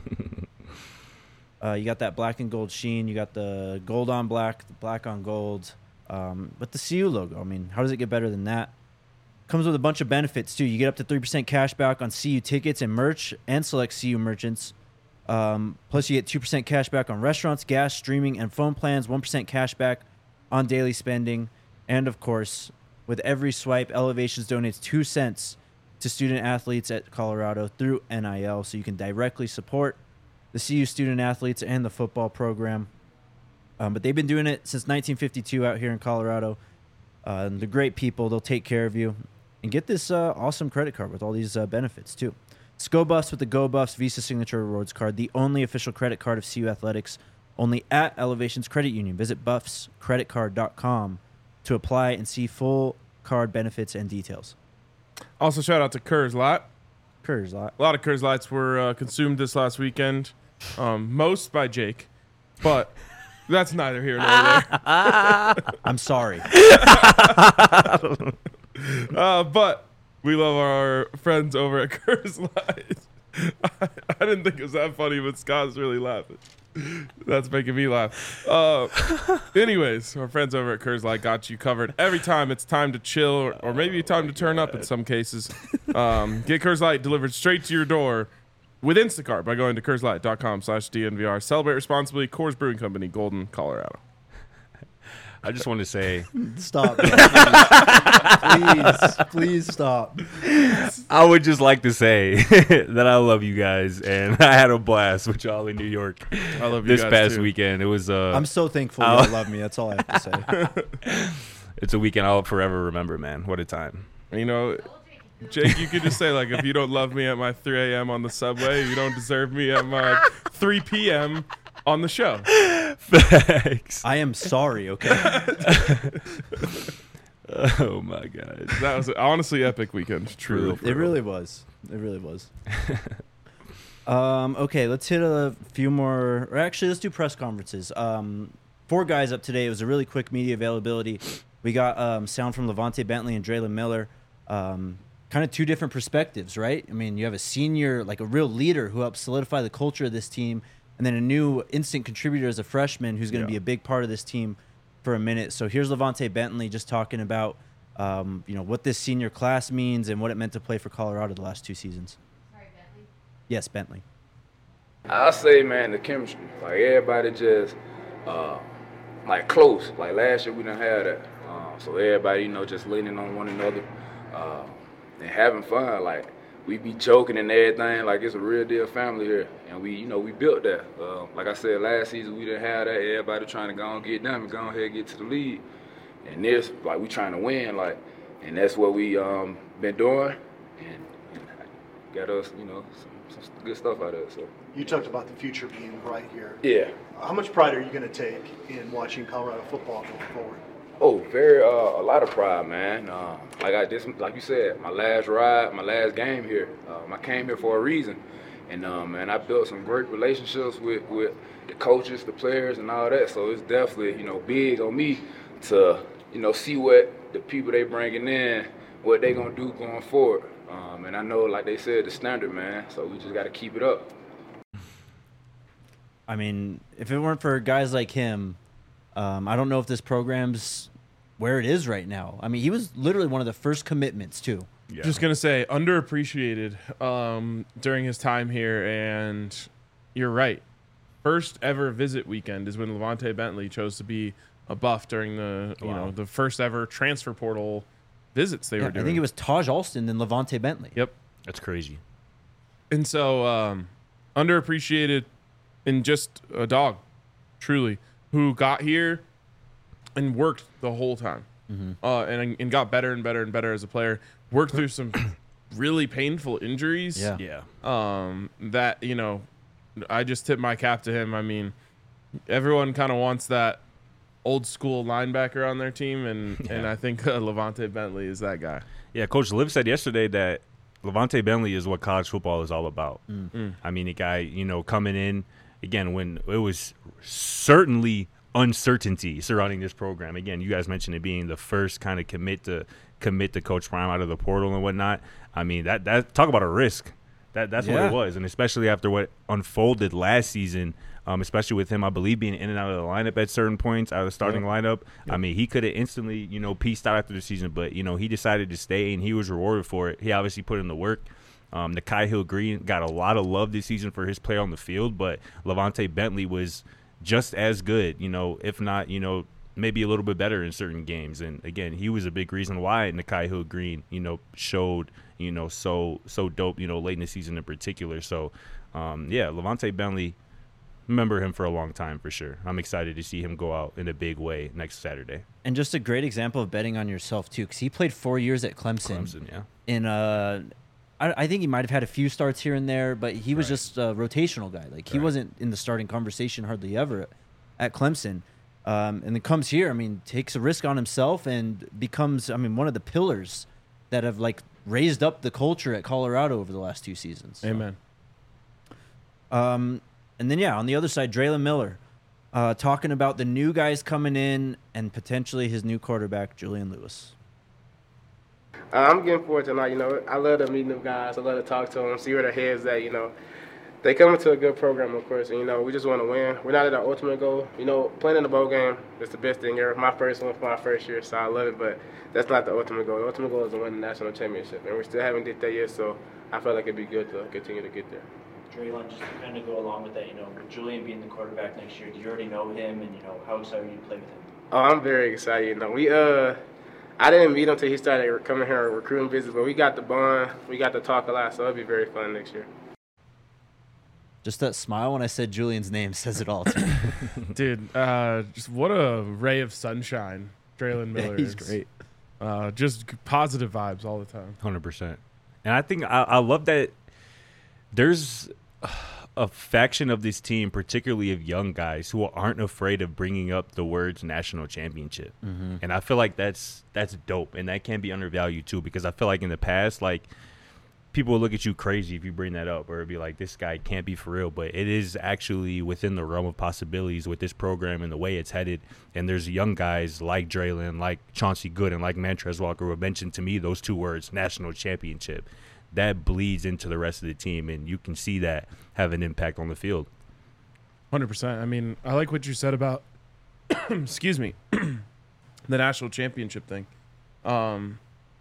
uh, you got that black and gold sheen. You got the gold on black, the black on gold, um, with the C U logo. I mean, how does it get better than that? Comes with a bunch of benefits too. You get up to three percent cash back on C U tickets and merch and select C U merchants. Um, plus, you get two percent cash back on restaurants, gas, streaming, and phone plans, one percent cash back on daily spending. And, of course, with every swipe, Elevations donates two cents to student athletes at Colorado through N I L, so you can directly support the C U student athletes and the football program. Um, but they've been doing it since nineteen fifty-two out here in Colorado. Uh, and they're great people. They'll take care of you. And get this uh, awesome credit card with all these uh, benefits, too. It's Go Buffs with the Go Buffs Visa Signature Rewards Card, the only official credit card of C U Athletics, only at Elevations Credit Union. Visit buffs credit card dot com to apply and see full card benefits and details. Also, shout out to Coors Light. Coors Light. A lot of Coors Lights were uh, consumed this last weekend, um, most by Jake, but That's neither here nor there. I'm sorry. Uh, but we love our friends over at Curse Light. I, I didn't think it was that funny, but Scott's really laughing. That's making me laugh. Uh, anyways, our friends over at Curse Light got you covered every time it's time to chill, or, or maybe time to turn up in some cases. Um, get Curse Light delivered straight to your door with Instacart by going to curselight.com slash DNVR. Celebrate responsibly. Coors Brewing Company, Golden, Colorado. I just want to say, Stop. Please. please, please stop. I would just like to say that I love you guys, and I had a blast with y'all in New York I love you this guys past too. weekend. It was uh, I'm so thankful you I'll- all love me. That's all I have to say. it's a weekend I'll forever remember, man. What a time. You know, Jake, you could just say, like, if you don't love me at my three a.m. on the subway, you don't deserve me at my three p.m. on the show. Facts. I am sorry, okay? Oh my god. That was an honestly epic weekend. Truly. For real. It really was. It really was. um, okay, let's hit a few more. Or actually, let's do press conferences. Um, four guys up today. It was a really quick media availability. We got um, sound from Levante Bentley and Draylen Miller. Um, kind of two different perspectives, right? I mean, you have a senior, like a real leader who helped solidify the culture of this team, and then a new instant contributor as a freshman who's going to Yeah. be a big part of this team for a minute. So here's Levante Bentley just talking about, um, you know, what this senior class means and what it meant to play for Colorado the last two seasons. Sorry, Bentley. Yes, Bentley. I say, man, the chemistry. Like everybody just, uh, like close. Like last year we didn't have that. Uh, so everybody, you know, just leaning on one another uh, and having fun. Like we be joking and everything. Like it's a real deal family here, and we, you know, we built that. Uh, like I said, last season we didn't have that. Everybody trying to go and get them and go ahead and get to the league. And this, like we trying to win. Like, and that's what we um been doing, and, and got us, you know, some, some good stuff out of it. So. You talked about the future being bright here. Yeah. How much pride are you going to take in watching Colorado football going forward? Oh, very uh, a lot of pride, man. Uh, like I this, like you said, my last ride, my last game here. Um, I came here for a reason, and um, man, I built some great relationships with, with the coaches, the players, and all that. So it's definitely, you know, big on me to, you know, see what the people they bringing in, what they gonna do going forward. Um, and I know, like they said, the standard, man. So we just got to keep it up. I mean, if it weren't for guys like him, um, I don't know if this program's where it is right now. I mean, he was literally one of the first commitments, too. Yeah. Just going to say, underappreciated um, during his time here, and you're right. First ever visit weekend is when Levante Bentley chose to be a Buff during the, you Wow. know, the first ever transfer portal visits they Yeah, were doing. I think it was Taj Alston and Levante Bentley. Yep. That's crazy. And so, um, underappreciated and just a dog, truly, who got here and worked the whole time, Mm-hmm. uh, and and got better and better and better as a player. Worked through some really painful injuries. Yeah. Yeah. Um, that you know, I just tip my cap to him. I mean, everyone kind of wants that old school linebacker on their team, and and Yeah. I think uh, Levante Bentley is that guy. Yeah, Coach Liv said yesterday that Levante Bentley is what college football is all about. Mm. I mean, a guy, you know, coming in, again, when it was certainly uncertainty surrounding this program. Again, you guys mentioned it being the first kind of commit to commit to Coach Prime out of the portal and whatnot. I mean, that that talk about a risk. That That's what Yeah. it was, and especially after what unfolded last season, um, especially with him, I believe, being in and out of the lineup at certain points, out of the starting lineup. I mean, he could have instantly, you know, pieced out after the season, but, you know, he decided to stay, and he was rewarded for it. He obviously put in the work. Um, Nakai Hill Green got a lot of love this season for his play on the field, but Levante Bentley was just as good, you know, if not, you know, maybe a little bit better in certain games. And, again, he was a big reason why Nakai Hill Green, you know, showed, you know, so so dope, you know, late in the season in particular. So, um, yeah, Levante Bentley, remember him for a long time for sure. I'm excited to see him go out in a big way next Saturday. And just a great example of betting on yourself, too, because he played four years at Clemson. Clemson, yeah. In uh, I, I think he might have had a few starts here and there, but he was Right. just a rotational guy. Like, he Right. wasn't in the starting conversation hardly ever at, at Clemson. Um, and then comes here, I mean, takes a risk on himself and becomes, I mean, one of the pillars that have, like, raised up the culture at Colorado over the last two seasons. So, Amen. Um, and then, yeah, on the other side, Draylen Miller. Uh, talking about the new guys coming in and potentially his new quarterback, Julian Lewis. Uh, I'm getting forward tonight. You know, I love to meet them guys. I love to talk to them, see where their heads at. You know, they come into a good program, of course, and you know, we just want to win. We're not at our ultimate goal. You know, playing in the bowl game is the best thing ever. My first one for my first year, so I love it. But that's not the ultimate goal. The ultimate goal is to win the national championship, and we still haven't did that yet. So I feel like it'd be good to continue to get there. Draylon, just to kind of go along with that, you know, with Julian being the quarterback next year, do you already know him, and you know, how excited are you to play with him? Oh, I'm very excited. You know, we uh, I didn't meet him until he started coming here recruiting business, but we got the bond, we got to talk a lot, so it'll be very fun next year. Just that smile when I said Julian's name says it all to me. Dude, uh, just what a ray of sunshine Draylon Miller He's is. great. Uh, just positive vibes all the time. one hundred percent. And I think I, I love that there's a faction of this team, particularly of young guys, who aren't afraid of bringing up the words national championship. Mm-hmm. And I feel like that's that's dope, and that can be undervalued too, because I feel like in the past, like, people will look at you crazy if you bring that up, or it'd be like, this guy can't be for real. But it is actually within the realm of possibilities with this program and the way it's headed. And there's young guys like Draylon, like Chauncey Good, and like Mantrez Walker who have mentioned to me those two words, national championship. That bleeds into the rest of the team, and you can see that have an impact on the field. one hundred percent. I mean, I like what you said about, excuse me, the national championship thing. Um,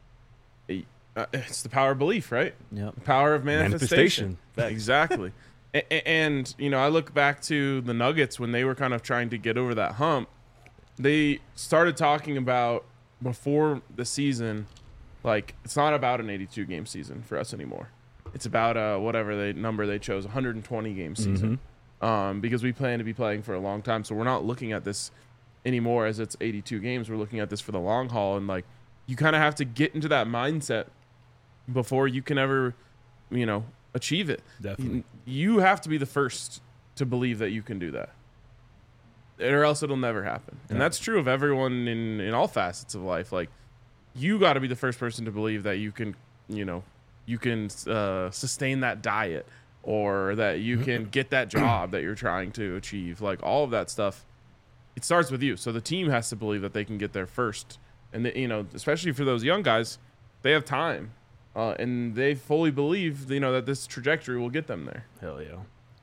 uh, it's the power of belief, right? Yep. The power of manifestation. Manifestation. Exactly. and, and, you know, I look back to the Nuggets when they were kind of trying to get over that hump. They started talking about before the season, like, it's not about an eighty-two game season for us anymore. It's about uh, whatever they number they chose, one hundred twenty game season, mm-hmm. um, because we plan to be playing for a long time. So we're not looking at this anymore as it's eighty-two games. We're looking at this for the long haul, and like, you kind of have to get into that mindset before you can ever, you know, achieve it. Definitely, you, you have to be the first to believe that you can do that, or else it'll never happen. And yeah. that's that's true of everyone in in all facets of life. Like, you got to be the first person to believe that you can, you know, you can uh, sustain that diet, or that you can get that job that you're trying to achieve. Like, all of that stuff, it starts with you. So the team has to believe that they can get there first. And, the, you know, especially for those young guys, they have time. Uh, and they fully believe, you know, that this trajectory will get them there. Hell yeah.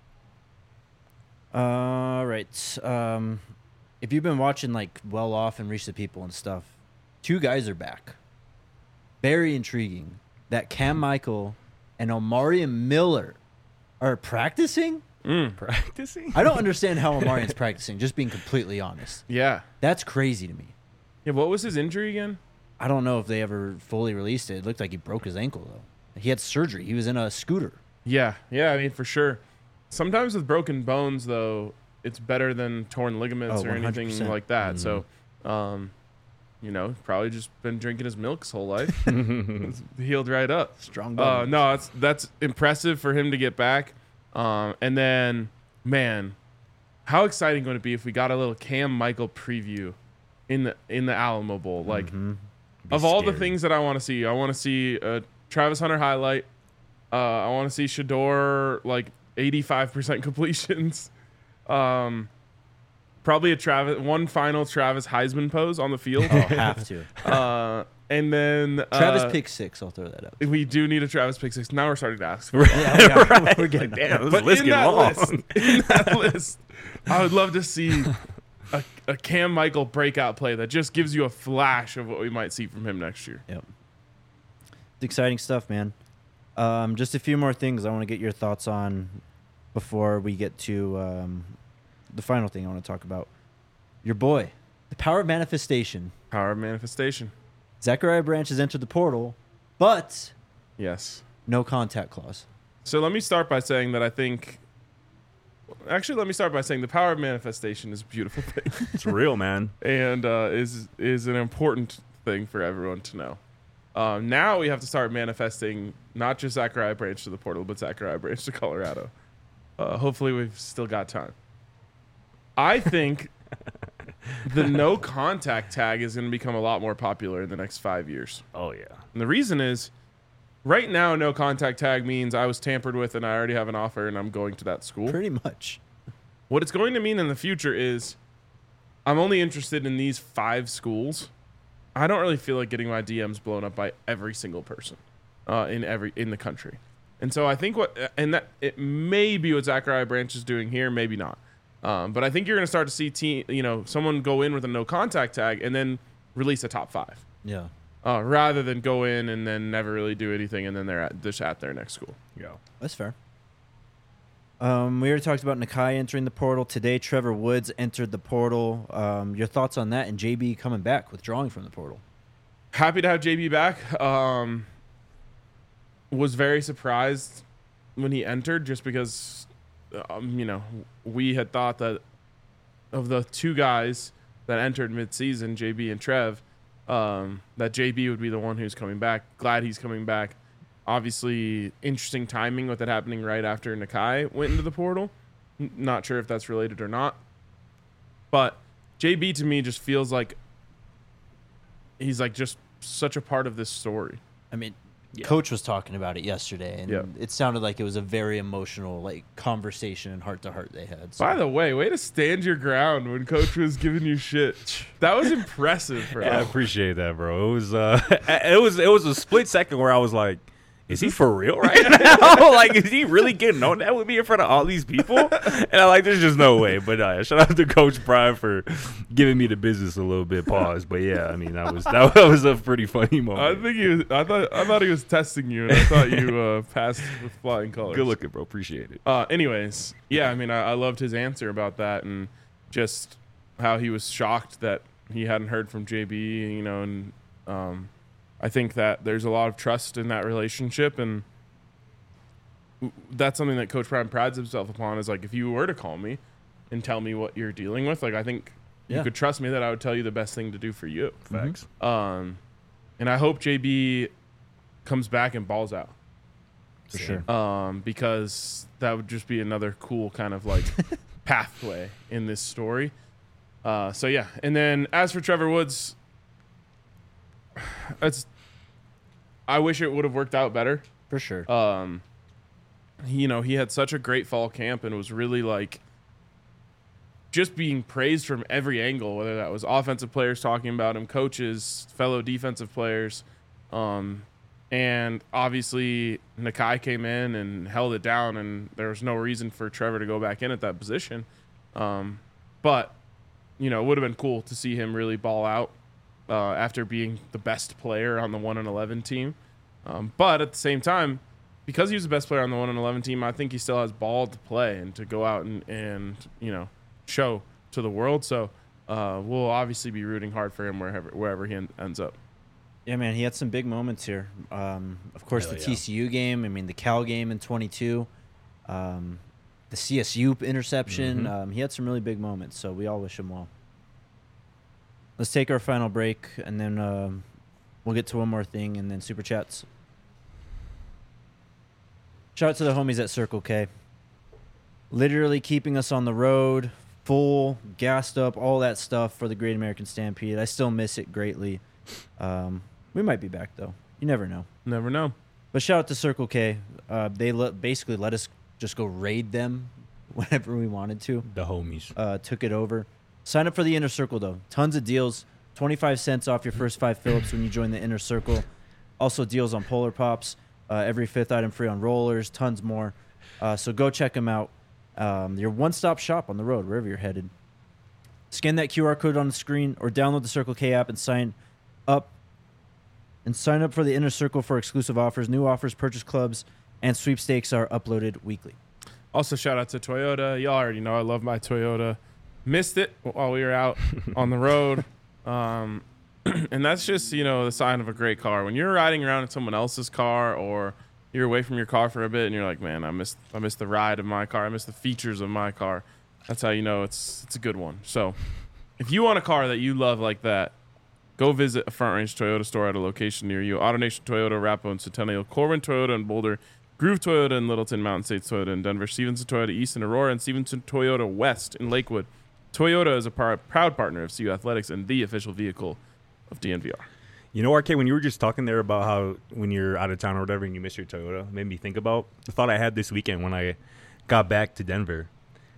All right. Um, if you've been watching, like, Well Off and Reach the People and stuff, two guys are back. Very intriguing that Cam Michael and Omarion Miller are practicing. Mm. Practicing? I don't understand how Omarion's practicing, just being completely honest. Yeah. That's crazy to me. Yeah, what was his injury again? I don't know if they ever fully released it. It looked like he broke his ankle, though. He had surgery. He was in a scooter. Yeah, yeah, I mean, for sure. Sometimes with broken bones, though, it's better than torn ligaments Oh, or anything one hundred percent. like that. Mhm. So, um, you know, probably just been drinking his milk his whole life. It's healed right up. Strong Uh, body. no, that's that's impressive for him to get back. Um, and then, man, how exciting would it be if we got a little Cam Michael preview in the in the Alamo Bowl? Like, Mhm. Be of all the scary. things that I want to see, I want to see a Travis Hunter highlight. Uh, I want to see Shador like eighty-five percent completions. Um, probably a Travis one final Travis Heisman pose on the field. Oh, have to. uh, and then uh, Travis pick six. I'll throw that out. We do need a Travis pick six. Now we're starting to ask. For it. Yeah, we are. Right. We're getting Like, damn, this But list in getting that long. list, in that list, I would love to see a, a Cam Michael breakout play that just gives you a flash of what we might see from him next year. Yep. It's exciting stuff, man. Um, just a few more things I want to get your thoughts on before we get to um, the final thing I want to talk about. Your boy, the power of manifestation. Power of manifestation. Zachariah Branch has entered the portal, but Yes. no contact clause. So let me start by saying that I think. Actually, let me start by saying the power of manifestation is a beautiful thing, It's real, man. and uh, is is an important thing for everyone to know. Um, now we have to start manifesting not just Zachariah Branch to the portal, but Zachariah Branch to Colorado. Uh, hopefully, we've still got time. I think the no contact tag is going to become a lot more popular in the next five years. Oh, yeah. And the reason is, right now, no contact tag means I was tampered with and I already have an offer and I'm going to that school. Pretty much. What it's going to mean in the future is I'm only interested in these five schools. I don't really feel like getting my D Ms blown up by every single person uh, in every in the country. And so I think what and that it may be what Zachariah Branch is doing here, maybe not. Um, but I think you're going to start to see team, you know, someone go in with a no contact tag and then release a top five. Yeah. Uh, rather than go in and then never really do anything and then they're at, just at their next school. Yeah. That's fair. Um, we already talked about Nakai entering the portal. Today, Trevor Woods entered the portal. Um, your thoughts on that and J B coming back, withdrawing from the portal? Happy to have J B back. Um, was very surprised when he entered just because, um, you know, we had thought that of the two guys that entered midseason, J B and Trev, um, that J B would be the one who's coming back. Glad he's coming back. Obviously, interesting timing with it happening right after Nakai went into the portal. N- not sure if that's related or not. But J B to me just feels like he's like just such a part of this story. I mean, Yeah. Coach was talking about it yesterday, and Yeah. it sounded like it was a very emotional, like, conversation and heart to heart they had. So. By the way, way to stand your ground when Coach was giving you shit. That was impressive, bro. Yeah, I appreciate that, bro. It was uh, it was it was a split second where I was like, is he for real right now? Like, is he really getting on that with me in front of all these people? And I'm like, there's just no way. But uh, shout out to Coach Brian for giving me the business a little bit. Pause. But yeah, I mean, that was that was a pretty funny I moment. think he was, I thought I thought he was testing you, and I thought you uh, passed with flying colors. Good looking, bro. Appreciate it. Uh, anyways, yeah, I mean, I, I loved his answer about that, and just how he was shocked that he hadn't heard from J B. You know, and um, I think that there's a lot of trust in that relationship, and w- that's something that Coach Brown prides himself upon. Is like, if you were to call me and tell me what you're dealing with, like, I think Yeah. you could trust me that I would tell you the best thing to do for you. Facts. Um, and I hope J B comes back and balls out. For sure. Um, because that would just be another cool kind of like pathway in this story. Uh, so yeah, and then as for Trevor Woods, it's I wish it would have worked out better. For sure. Um, he- you know, he had such a great fall camp and was really like just being praised from every angle, whether that was offensive players talking about him, coaches, fellow defensive players. Um, and obviously Nakai came in and held it down, and there was no reason for Trevor to go back in at that position. Um, but, you know, it would have been cool to see him really ball out uh, after being the best player on the one and eleven team. Um, but at the same time, because he was the best player on the one and eleven team, I think he still has ball to play and to go out and, and you know, show to the world. So uh, we'll obviously be rooting hard for him wherever wherever he en- ends up. Yeah, man, he had some big moments here. Um, of course, Hell the yeah. T C U game. I mean, the Cal game in twenty-two. Um, the C S U interception. Mhm. Um, he had some really big moments, so we all wish him well. Let's take our final break, and then um, we'll get to one more thing, and then Super Chats. Shout out to the homies at Circle K. Literally keeping us on the road, full, gassed up, all that stuff for the Great American Stampede. I still miss it greatly. Um, we might be back, though. You never know. Never know. But shout out to Circle K. Uh, they le- basically let us just go raid them whenever we wanted to. The homies. Uh, took it over. Sign up for the Inner Circle, though. Tons of deals. twenty-five cents off your first five Phillips when you join the Inner Circle. Also deals on Polar Pops. Uh, every fifth item free on rollers. Tons more. Uh, so go check them out. Um, your one-stop shop on the road, wherever you're headed. Scan that Q R code on the screen or download the Circle K app and sign up. And sign up for the Inner Circle for exclusive offers. New offers, purchase clubs, and sweepstakes are uploaded weekly. Also, shout out to Toyota. Y'all already know I love my Toyota. Missed it while we were out on the road. Um, and that's just, you know, the sign of a great car. When you're riding around in someone else's car or you're away from your car for a bit and you're like, man, I missed I missed the ride of my car. I missed the features of my car. That's how you know it's it's a good one. So if you want a car that you love like that, go visit a Front Range Toyota store at a location near you. AutoNation Toyota, Arapahoe and Centennial, Corwin Toyota in Boulder, Groove Toyota in Littleton, Mountain States Toyota in Denver, Stevenson Toyota East in Aurora, and Stevenson Toyota West in Lakewood. Toyota is a par- proud partner of C U Athletics and the official vehicle of D N V R. You know, R K, when you were just talking there about how when you're out of town or whatever and you miss your Toyota, it made me think about the thought I had this weekend when I got back to Denver.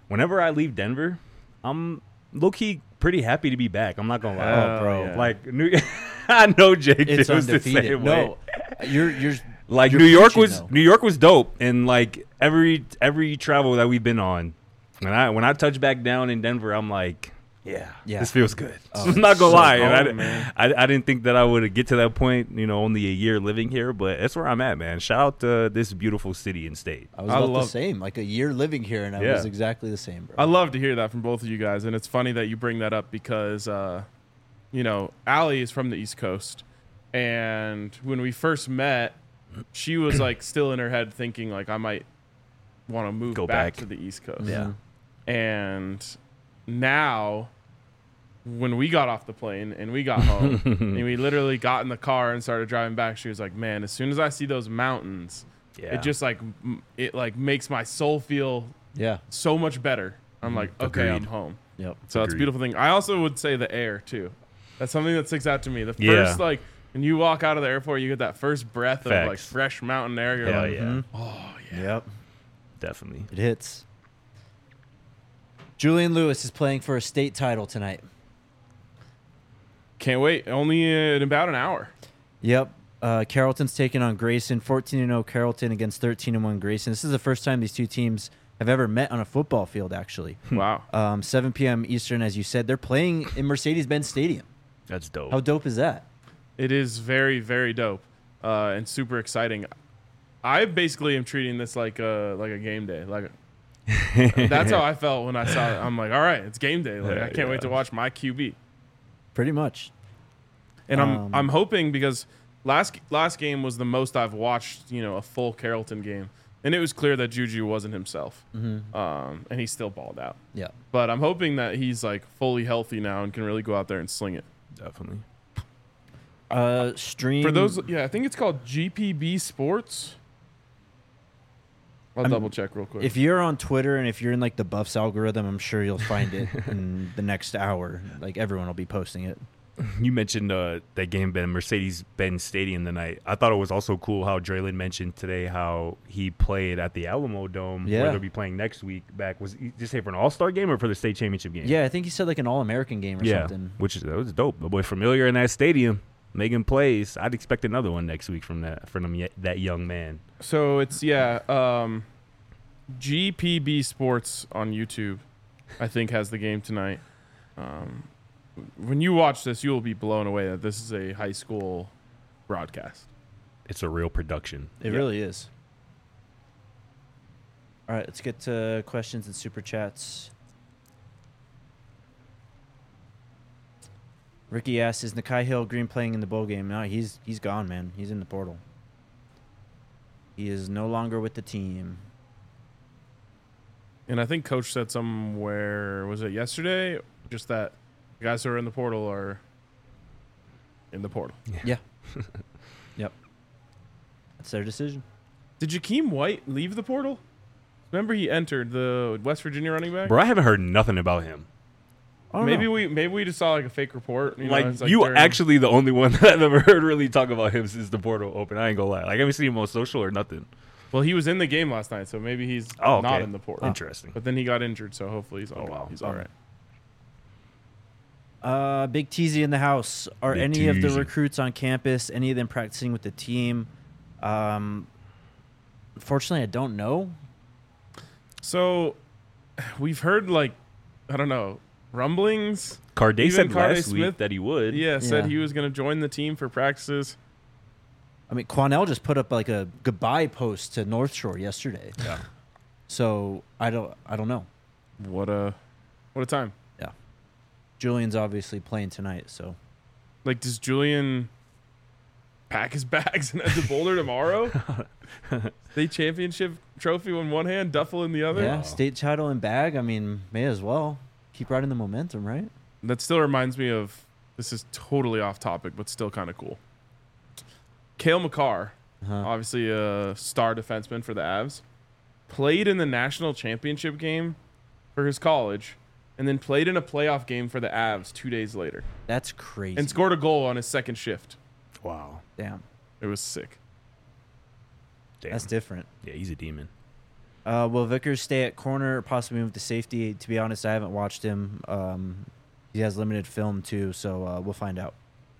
whenever I leave Denver, I'm low key pretty happy to be back. I'm not gonna lie, Hell bro. yeah. like New I know Jake It's feels the undefeated. same way. No, you're you're Like you're New York preaching, was though. New York was dope, and like every every travel that we've been on, when I when I touch back down in Denver, I'm like, yeah, Yeah. this feels good. Oh, I'm not gonna so lie, home, and I, man. I I didn't think that I would get to that point. You know, only a year living here, but that's where I'm at, man. Shout out to this beautiful city and state. I was I about the love- same. Like a year living here, and I Yeah. was exactly the same, bro. I love to hear that from both of you guys, and it's funny that you bring that up because, uh, you know, Allie is from the East Coast, and when we first met, she was like still in her head thinking like I might want to move Go back, back. to the East Coast. Yeah. And now, when we got off the plane and we got home, and we literally got in the car and started driving back, she was like, "Man, as soon as I see those mountains, Yeah, it just like m- it like makes my soul feel Yeah. so much better." I'm like, "Okay, I'm Agreed. home." Yep. So that's a Agreed. beautiful thing. I also would say the air too. That's something that sticks out to me. The Yeah. first like when you walk out of the airport, you get that first breath of like Facts. fresh mountain air. You're Hell like, yeah, Mhm. "Oh yeah." Yep. definitely. It hits. Julian Lewis is playing for a state title tonight. Can't wait. Only in about an hour. Yep. Uh, Carrollton's taking on Grayson. fourteen and oh Carrollton against thirteen and one Grayson. This is the first time these two teams have ever met on a football field, actually. Wow. Um, seven p.m. Eastern, as you said. They're playing in Mercedes-Benz Stadium. That's dope. How dope is that? It is very, very dope uh, and super exciting. I basically am treating this like a like a game day. Like that's how I felt when I saw it. I'm like, all right, it's game day. Like I can't wait to watch my Q B. Pretty much. And I'm Um, I'm hoping because last last game was the most I've watched, you know, a full Carrollton game, and it was clear that Juju wasn't himself, Mm-hmm. um, and he still balled out. Yeah. But I'm hoping that he's like fully healthy now and can really go out there and sling it. Definitely. Uh, stream. For those, yeah, I think it's called G P B Sports. I'll I'm- double check real quick. If you're on Twitter and if you're in like the Buffs algorithm, I'm sure you'll find it in the next hour. Like everyone will be posting it. You mentioned uh, that game at Mercedes-Benz Stadium tonight. I thought it was also cool how Draylon mentioned today how he played at the Alamo Dome, Yeah. where they'll be playing next week. Back was he just say for an All-Star game or for the state championship game? Yeah, I think he said like an All-American game or yeah, something. which is that was dope. The boy familiar in that stadium, making plays. I'd expect another one next week from that from them, ye- that young man. so it's yeah, um, G P B Sports on YouTube, I think has the game tonight. Um, when you watch this, you will be blown away that this is a high school broadcast. It's a real production. It Yeah. really is. All right, let's get to questions and super chats. Ricky asks, "Is Nakai Hill Green playing in the bowl game?" No, he's he's gone, man. He's in the portal. He is no longer with the team. And I think Coach said somewhere, was it yesterday? Just that the guys who are in the portal are in the portal. Yeah. Yep. That's their decision. Did Jakeem White leave the portal? Remember he entered the West Virginia running back? Bro, I haven't heard nothing about him. I don't Maybe know. we maybe we just saw like a fake report. You know, like, it's like you during- actually the only one that I've ever heard really talk about him since the portal open. I ain't gonna lie. Like I haven't seen him on social or nothing. Well, he was in the game last night, so maybe he's Oh, not okay. in the portal. Interesting. But then he got injured, so hopefully he's all, Oh, wow. he's all right. Uh, Big Teasy in the house. Are Big any of the Teasy. recruits on campus? Any of them practicing with the team? Um, unfortunately, I don't know. So we've heard like I don't know rumblings. Carday Even said Carday last Smith- week that he would. Yeah, said Yeah. he was going to join the team for practices. I mean, Quanell just put up like a goodbye post to North Shore yesterday. Yeah. So I don't, I don't know. What a what a time! Yeah, Julian's obviously playing tonight, so Like, does Julian pack his bags and head to Boulder tomorrow? State championship trophy in one hand, duffel in the other. yeah, state title and bag. I mean, may as well keep riding the momentum, right? That still reminds me of this is totally off topic, but still kind of cool. Cale McCarr, Uh-huh. obviously a star defenseman for the Avs, played in the national championship game for his college, and then played in a playoff game for the Avs two days later, That's crazy. and scored a goal on his second shift. Wow. Damn, It was sick. Damn. that's different. Yeah, he's a demon. Uh, will Vickers stay at corner or possibly move to safety? To be honest, I haven't watched him. Um, he has limited film too, so uh, we'll find out.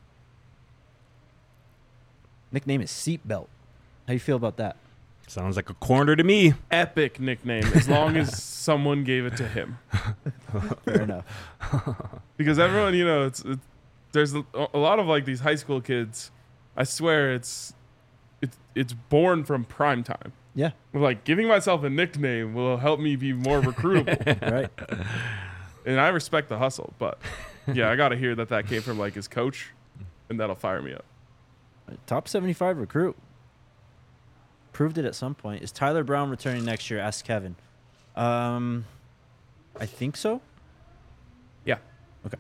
Nickname is Seatbelt. How you feel about that? Sounds like a corner to me. Epic nickname, as long as someone gave it to him. Fair enough. Because everyone, you know, it's, it's there's a, a lot of like these high school kids. I swear, it's it's it's born from prime time. Yeah. Like giving myself a nickname will help me be more recruitable. Right. And I respect the hustle, but yeah, I got to hear that that came from like his coach, and that'll fire me up. Top seventy-five recruit. Proved it at some point. Is Tyler Brown returning next year? Asked Kevin. Um, I think so. Yeah. Okay.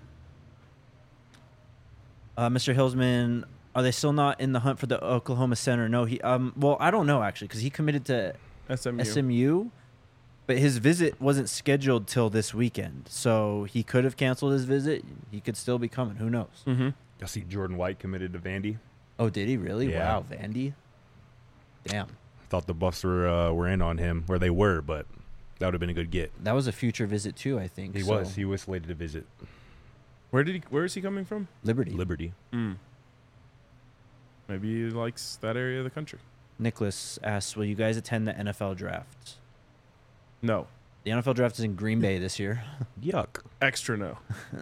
Uh, Mister Hillsman, are they still not in the hunt for the Oklahoma center? No, he. Um, well, I don't know actually, because he committed to S M U. S M U, but his visit wasn't scheduled till this weekend, so he could have canceled his visit. He could still be coming. Who knows? Mm-hmm. I see Jordan White committed to Vandy. Oh, did he really? Yeah. Wow, Vandy. Damn. Thought the Buffs were uh, were in on him, where they were, but that would have been a good get. That was a future visit too, I think. He so. was. He was slated to visit Where did he? Where is he coming from? Liberty. Liberty. Mm. Maybe he likes that area of the country. Nicholas asks, will you guys attend the N F L draft? No. The N F L draft is in Green Bay this year. Yuck. Extra no.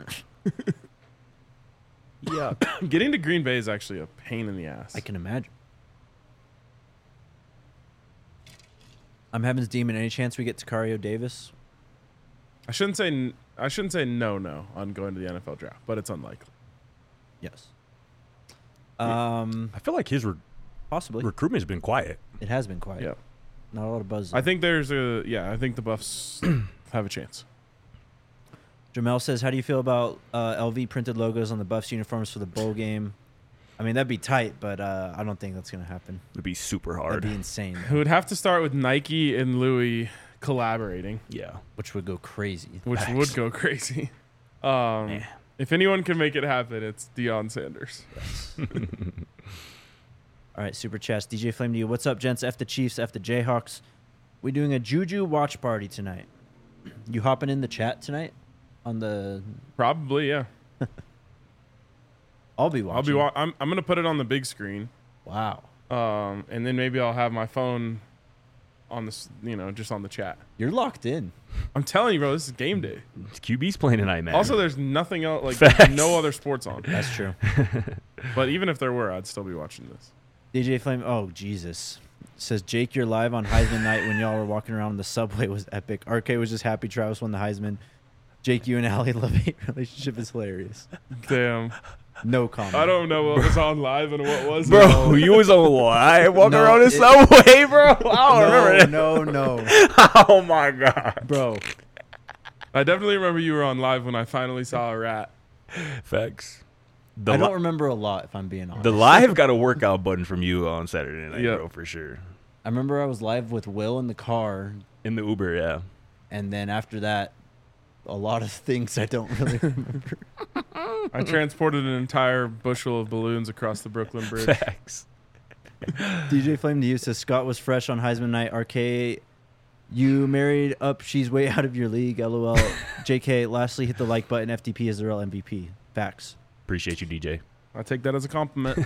Yuck. Getting to Green Bay is actually a pain in the ass. I can imagine. I'm Heaven's Demon. Any chance we get Sicario Davis? I shouldn't say. n- I shouldn't say no, no on going to the N F L draft, but it's unlikely. Yes. Um, I feel like his re- possibly. recruitment's been quiet. It has been quiet. Yeah. Not a lot of buzz. I think there's a. Yeah, I think the Buffs have a chance. Jamel says, how do you feel about uh, L V printed logos on the Buffs uniforms for the bowl game? I mean, that'd be tight, but uh, I don't think that's going to happen. It'd be super That'd hard. be insane, It would have to start with Nike and Louis collaborating, Yeah. which would go crazy. which Facts. would go crazy. Um, Yeah. If anyone can make it happen, it's Deion Sanders. All right, Super Chats. D J Flame to you. What's up, gents? F the Chiefs, F the Jayhawks. We doing a Juju watch party tonight. You hopping in the chat tonight? On the... Probably, yeah. I'll be watching. I'll be. Wa- I'm. I'm gonna put it on the big screen. Wow. Um, and then maybe I'll have my phone on this. You know, just on the chat. You're locked in. I'm telling you, bro. This is game day. Q B's playing tonight, man. Also, there's nothing else. Like Facts. there's no other sports on. That's true. But even if there were, I'd still be watching this. D J Flame, oh, Jesus. Says, Jake, you're live on Heisman night when y'all were walking around the subway was epic. R K was just happy Travis won the Heisman. Jake, you and Allie love-hate relationship is hilarious. Damn. No comment. I don't know what was on live and what wasn't. Bro, you was on live walking No, around the it- subway, bro. I don't no, remember that. no, no. Oh my god. Bro, I definitely remember you were on live when I finally saw a rat. Facts. The I don't li- remember a lot, if I'm being honest. the live got a workout button from you on Saturday night, Yeah. bro, for sure. I remember I was live with Will in the car, In the Uber, yeah. and then after that, a lot of things I don't really remember. I transported an entire bushel of balloons across the Brooklyn Bridge. Facts. D J Flame to you says, Scott was fresh on Heisman night. R K, you married up. She's way out of your league. LOL. J K, lastly, hit the like button. F D P is the real M V P. Facts. Appreciate you, D J. I take that as a compliment.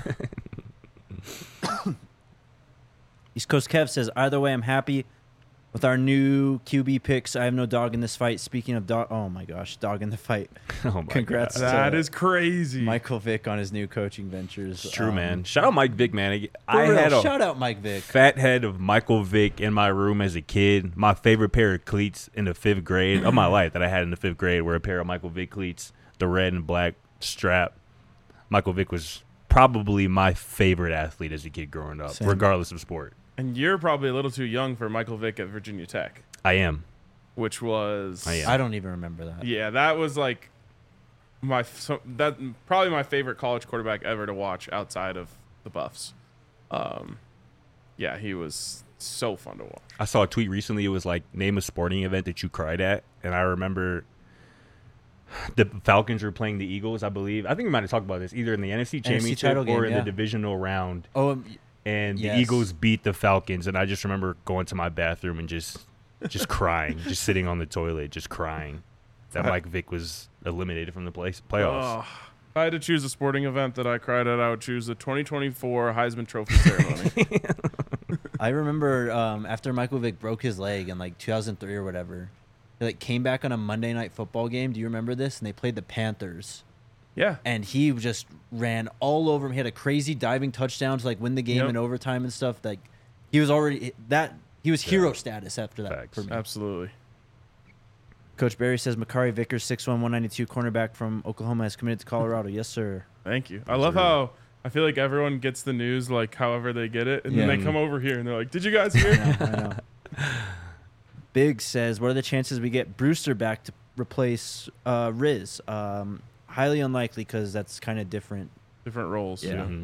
East Coast Kev says, either way, I'm happy with our new Q B picks. I have no dog in this fight. Speaking of dog, oh my gosh, dog in the fight. Oh my Congrats. god. That to is crazy. Michael Vick on his new coaching ventures. It's true, Um, man. Shout out Mike Vick, man. for I real, had a shout out Mike Vick. fat head of Michael Vick in my room as a kid. My favorite pair of cleats in the fifth grade of my life that I had in the fifth grade were a pair of Michael Vick cleats, the red and black strap. Michael Vick was probably my favorite athlete as a kid growing up, Same. regardless of sport. And you're probably a little too young for Michael Vick at Virginia Tech, I am. which was I am. I don't even remember that. yeah, that was like my so, that probably my favorite college quarterback ever to watch outside of the Buffs. Um, yeah, he was so fun to watch. I saw a tweet recently. It was like, name a sporting event that you cried at. And I remember the Falcons were playing the Eagles, I believe. I think we might have talked about this either in the N F C N F C Championship title game, or in yeah. the divisional round. Oh, um, And Yes. the Eagles beat the Falcons. And I just remember going to my bathroom and just just crying, just sitting on the toilet, just crying that Mike Vick was eliminated from the play- playoffs. Oh, if I had to choose a sporting event that I cried at, I would choose the twenty twenty-four Heisman Trophy ceremony. I remember um, after Michael Vick broke his leg in like two thousand three or whatever, he like came back on a Monday Night Football game. Do you remember this? And they played the Panthers. Yeah. And he just ran all over him. He had a crazy diving touchdown to like win the game Yep. in overtime and stuff. Like he was already that he was hero Yeah. status after that Facts. for me. Absolutely. Coach Barry says Makari Vickers, six one, one ninety-two cornerback from Oklahoma, has committed to Colorado. Yes, sir. Thank you. I love how I feel like everyone gets the news like however they get it, and Yeah. then they come over here and they're like, "Did you guys hear?" I know, I know. Big says, what are the chances we get Brewster back to replace uh, Riz? Um, highly unlikely because that's kind of different. Different roles. Yeah. Mhm.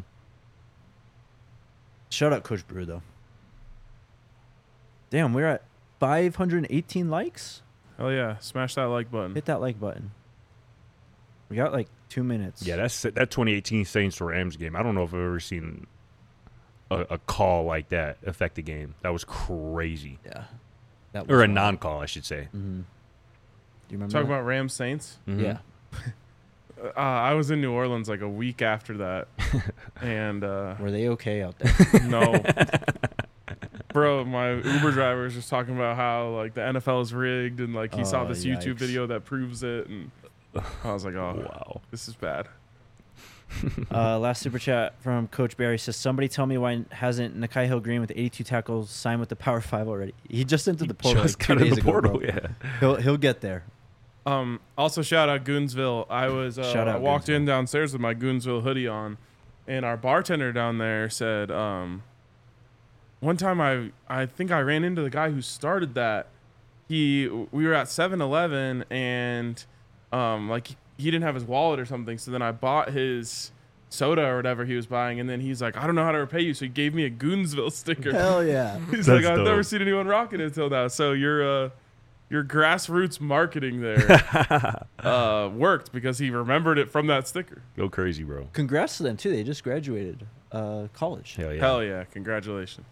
Shout out Coach Brew, though. Damn, we're at five hundred eighteen likes. Hell yeah! Smash that like button. Hit that like button. We got like two minutes. Yeah, that's that twenty eighteen Saints Rams game. I don't know if I've ever seen a, a call like that affect the game. That was crazy. Yeah. That Or a wild. non-call, I should say. Mm-hmm. Do you remember? Talk that? about Rams Saints. Mhm. Yeah. Uh, I was in New Orleans like a week after that, and uh, Were they okay out there? no, bro, my Uber driver was just talking about how like the N F L is rigged, and like he saw Oh, this YouTube yikes. video that proves it, and I was like, oh, Wow. this is bad. uh, last super chat from Coach Barry says, somebody tell me why hasn't Nakai Hill Green with eighty-two tackles signed with the Power Five already? He just entered the portal Just like two got in days the ago, portal, bro. yeah. He'll, he'll get there. Um, also, shout out Goonsville. I was uh, Shout out I walked Goonsville. in downstairs with my Goonsville hoodie on, and our bartender down there said, um, one time I I think I ran into the guy who started that. He we were at seven eleven and um like he didn't have his wallet or something, so then I bought his soda or whatever he was buying, and then he's like, I don't know how to repay you, so he gave me a Goonsville sticker. Hell yeah. He's That's like, I've never dope. seen anyone rocking it until now. So your uh, your grassroots marketing there uh, worked because he remembered it from that sticker. Go crazy, bro. Congrats to them, too. They just graduated uh, college. Hell yeah. Hell yeah! Congratulations.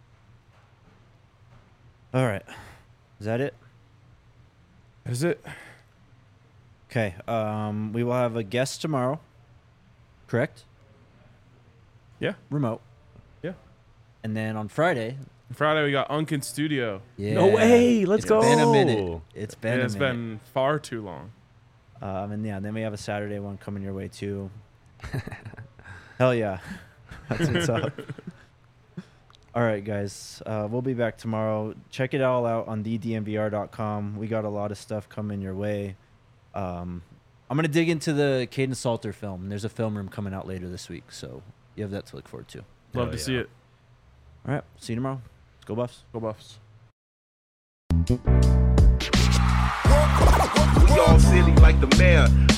All right. Is that it? Is it? Okay. Um, we will have a guest tomorrow. Correct? Yeah. Remote. Yeah. And then on Friday. Friday we got Unkin Studio. Yeah. No way. Let's It's go. been a minute. It's been And a it's minute. been far too long. Um, and yeah, then we have a Saturday one coming your way too. Hell yeah. That's what's up. All right, guys. Uh, we'll be back tomorrow. Check it all out on the d m v r dot com. We got a lot of stuff coming your way. Um, I'm going to dig into the Caden Salter film. There's a film room coming out later this week, so you have that to look forward to. Love Hell to see yeah. it. All right. See you tomorrow. Let's go Buffs. Go Buffs. We all silly like the mayor.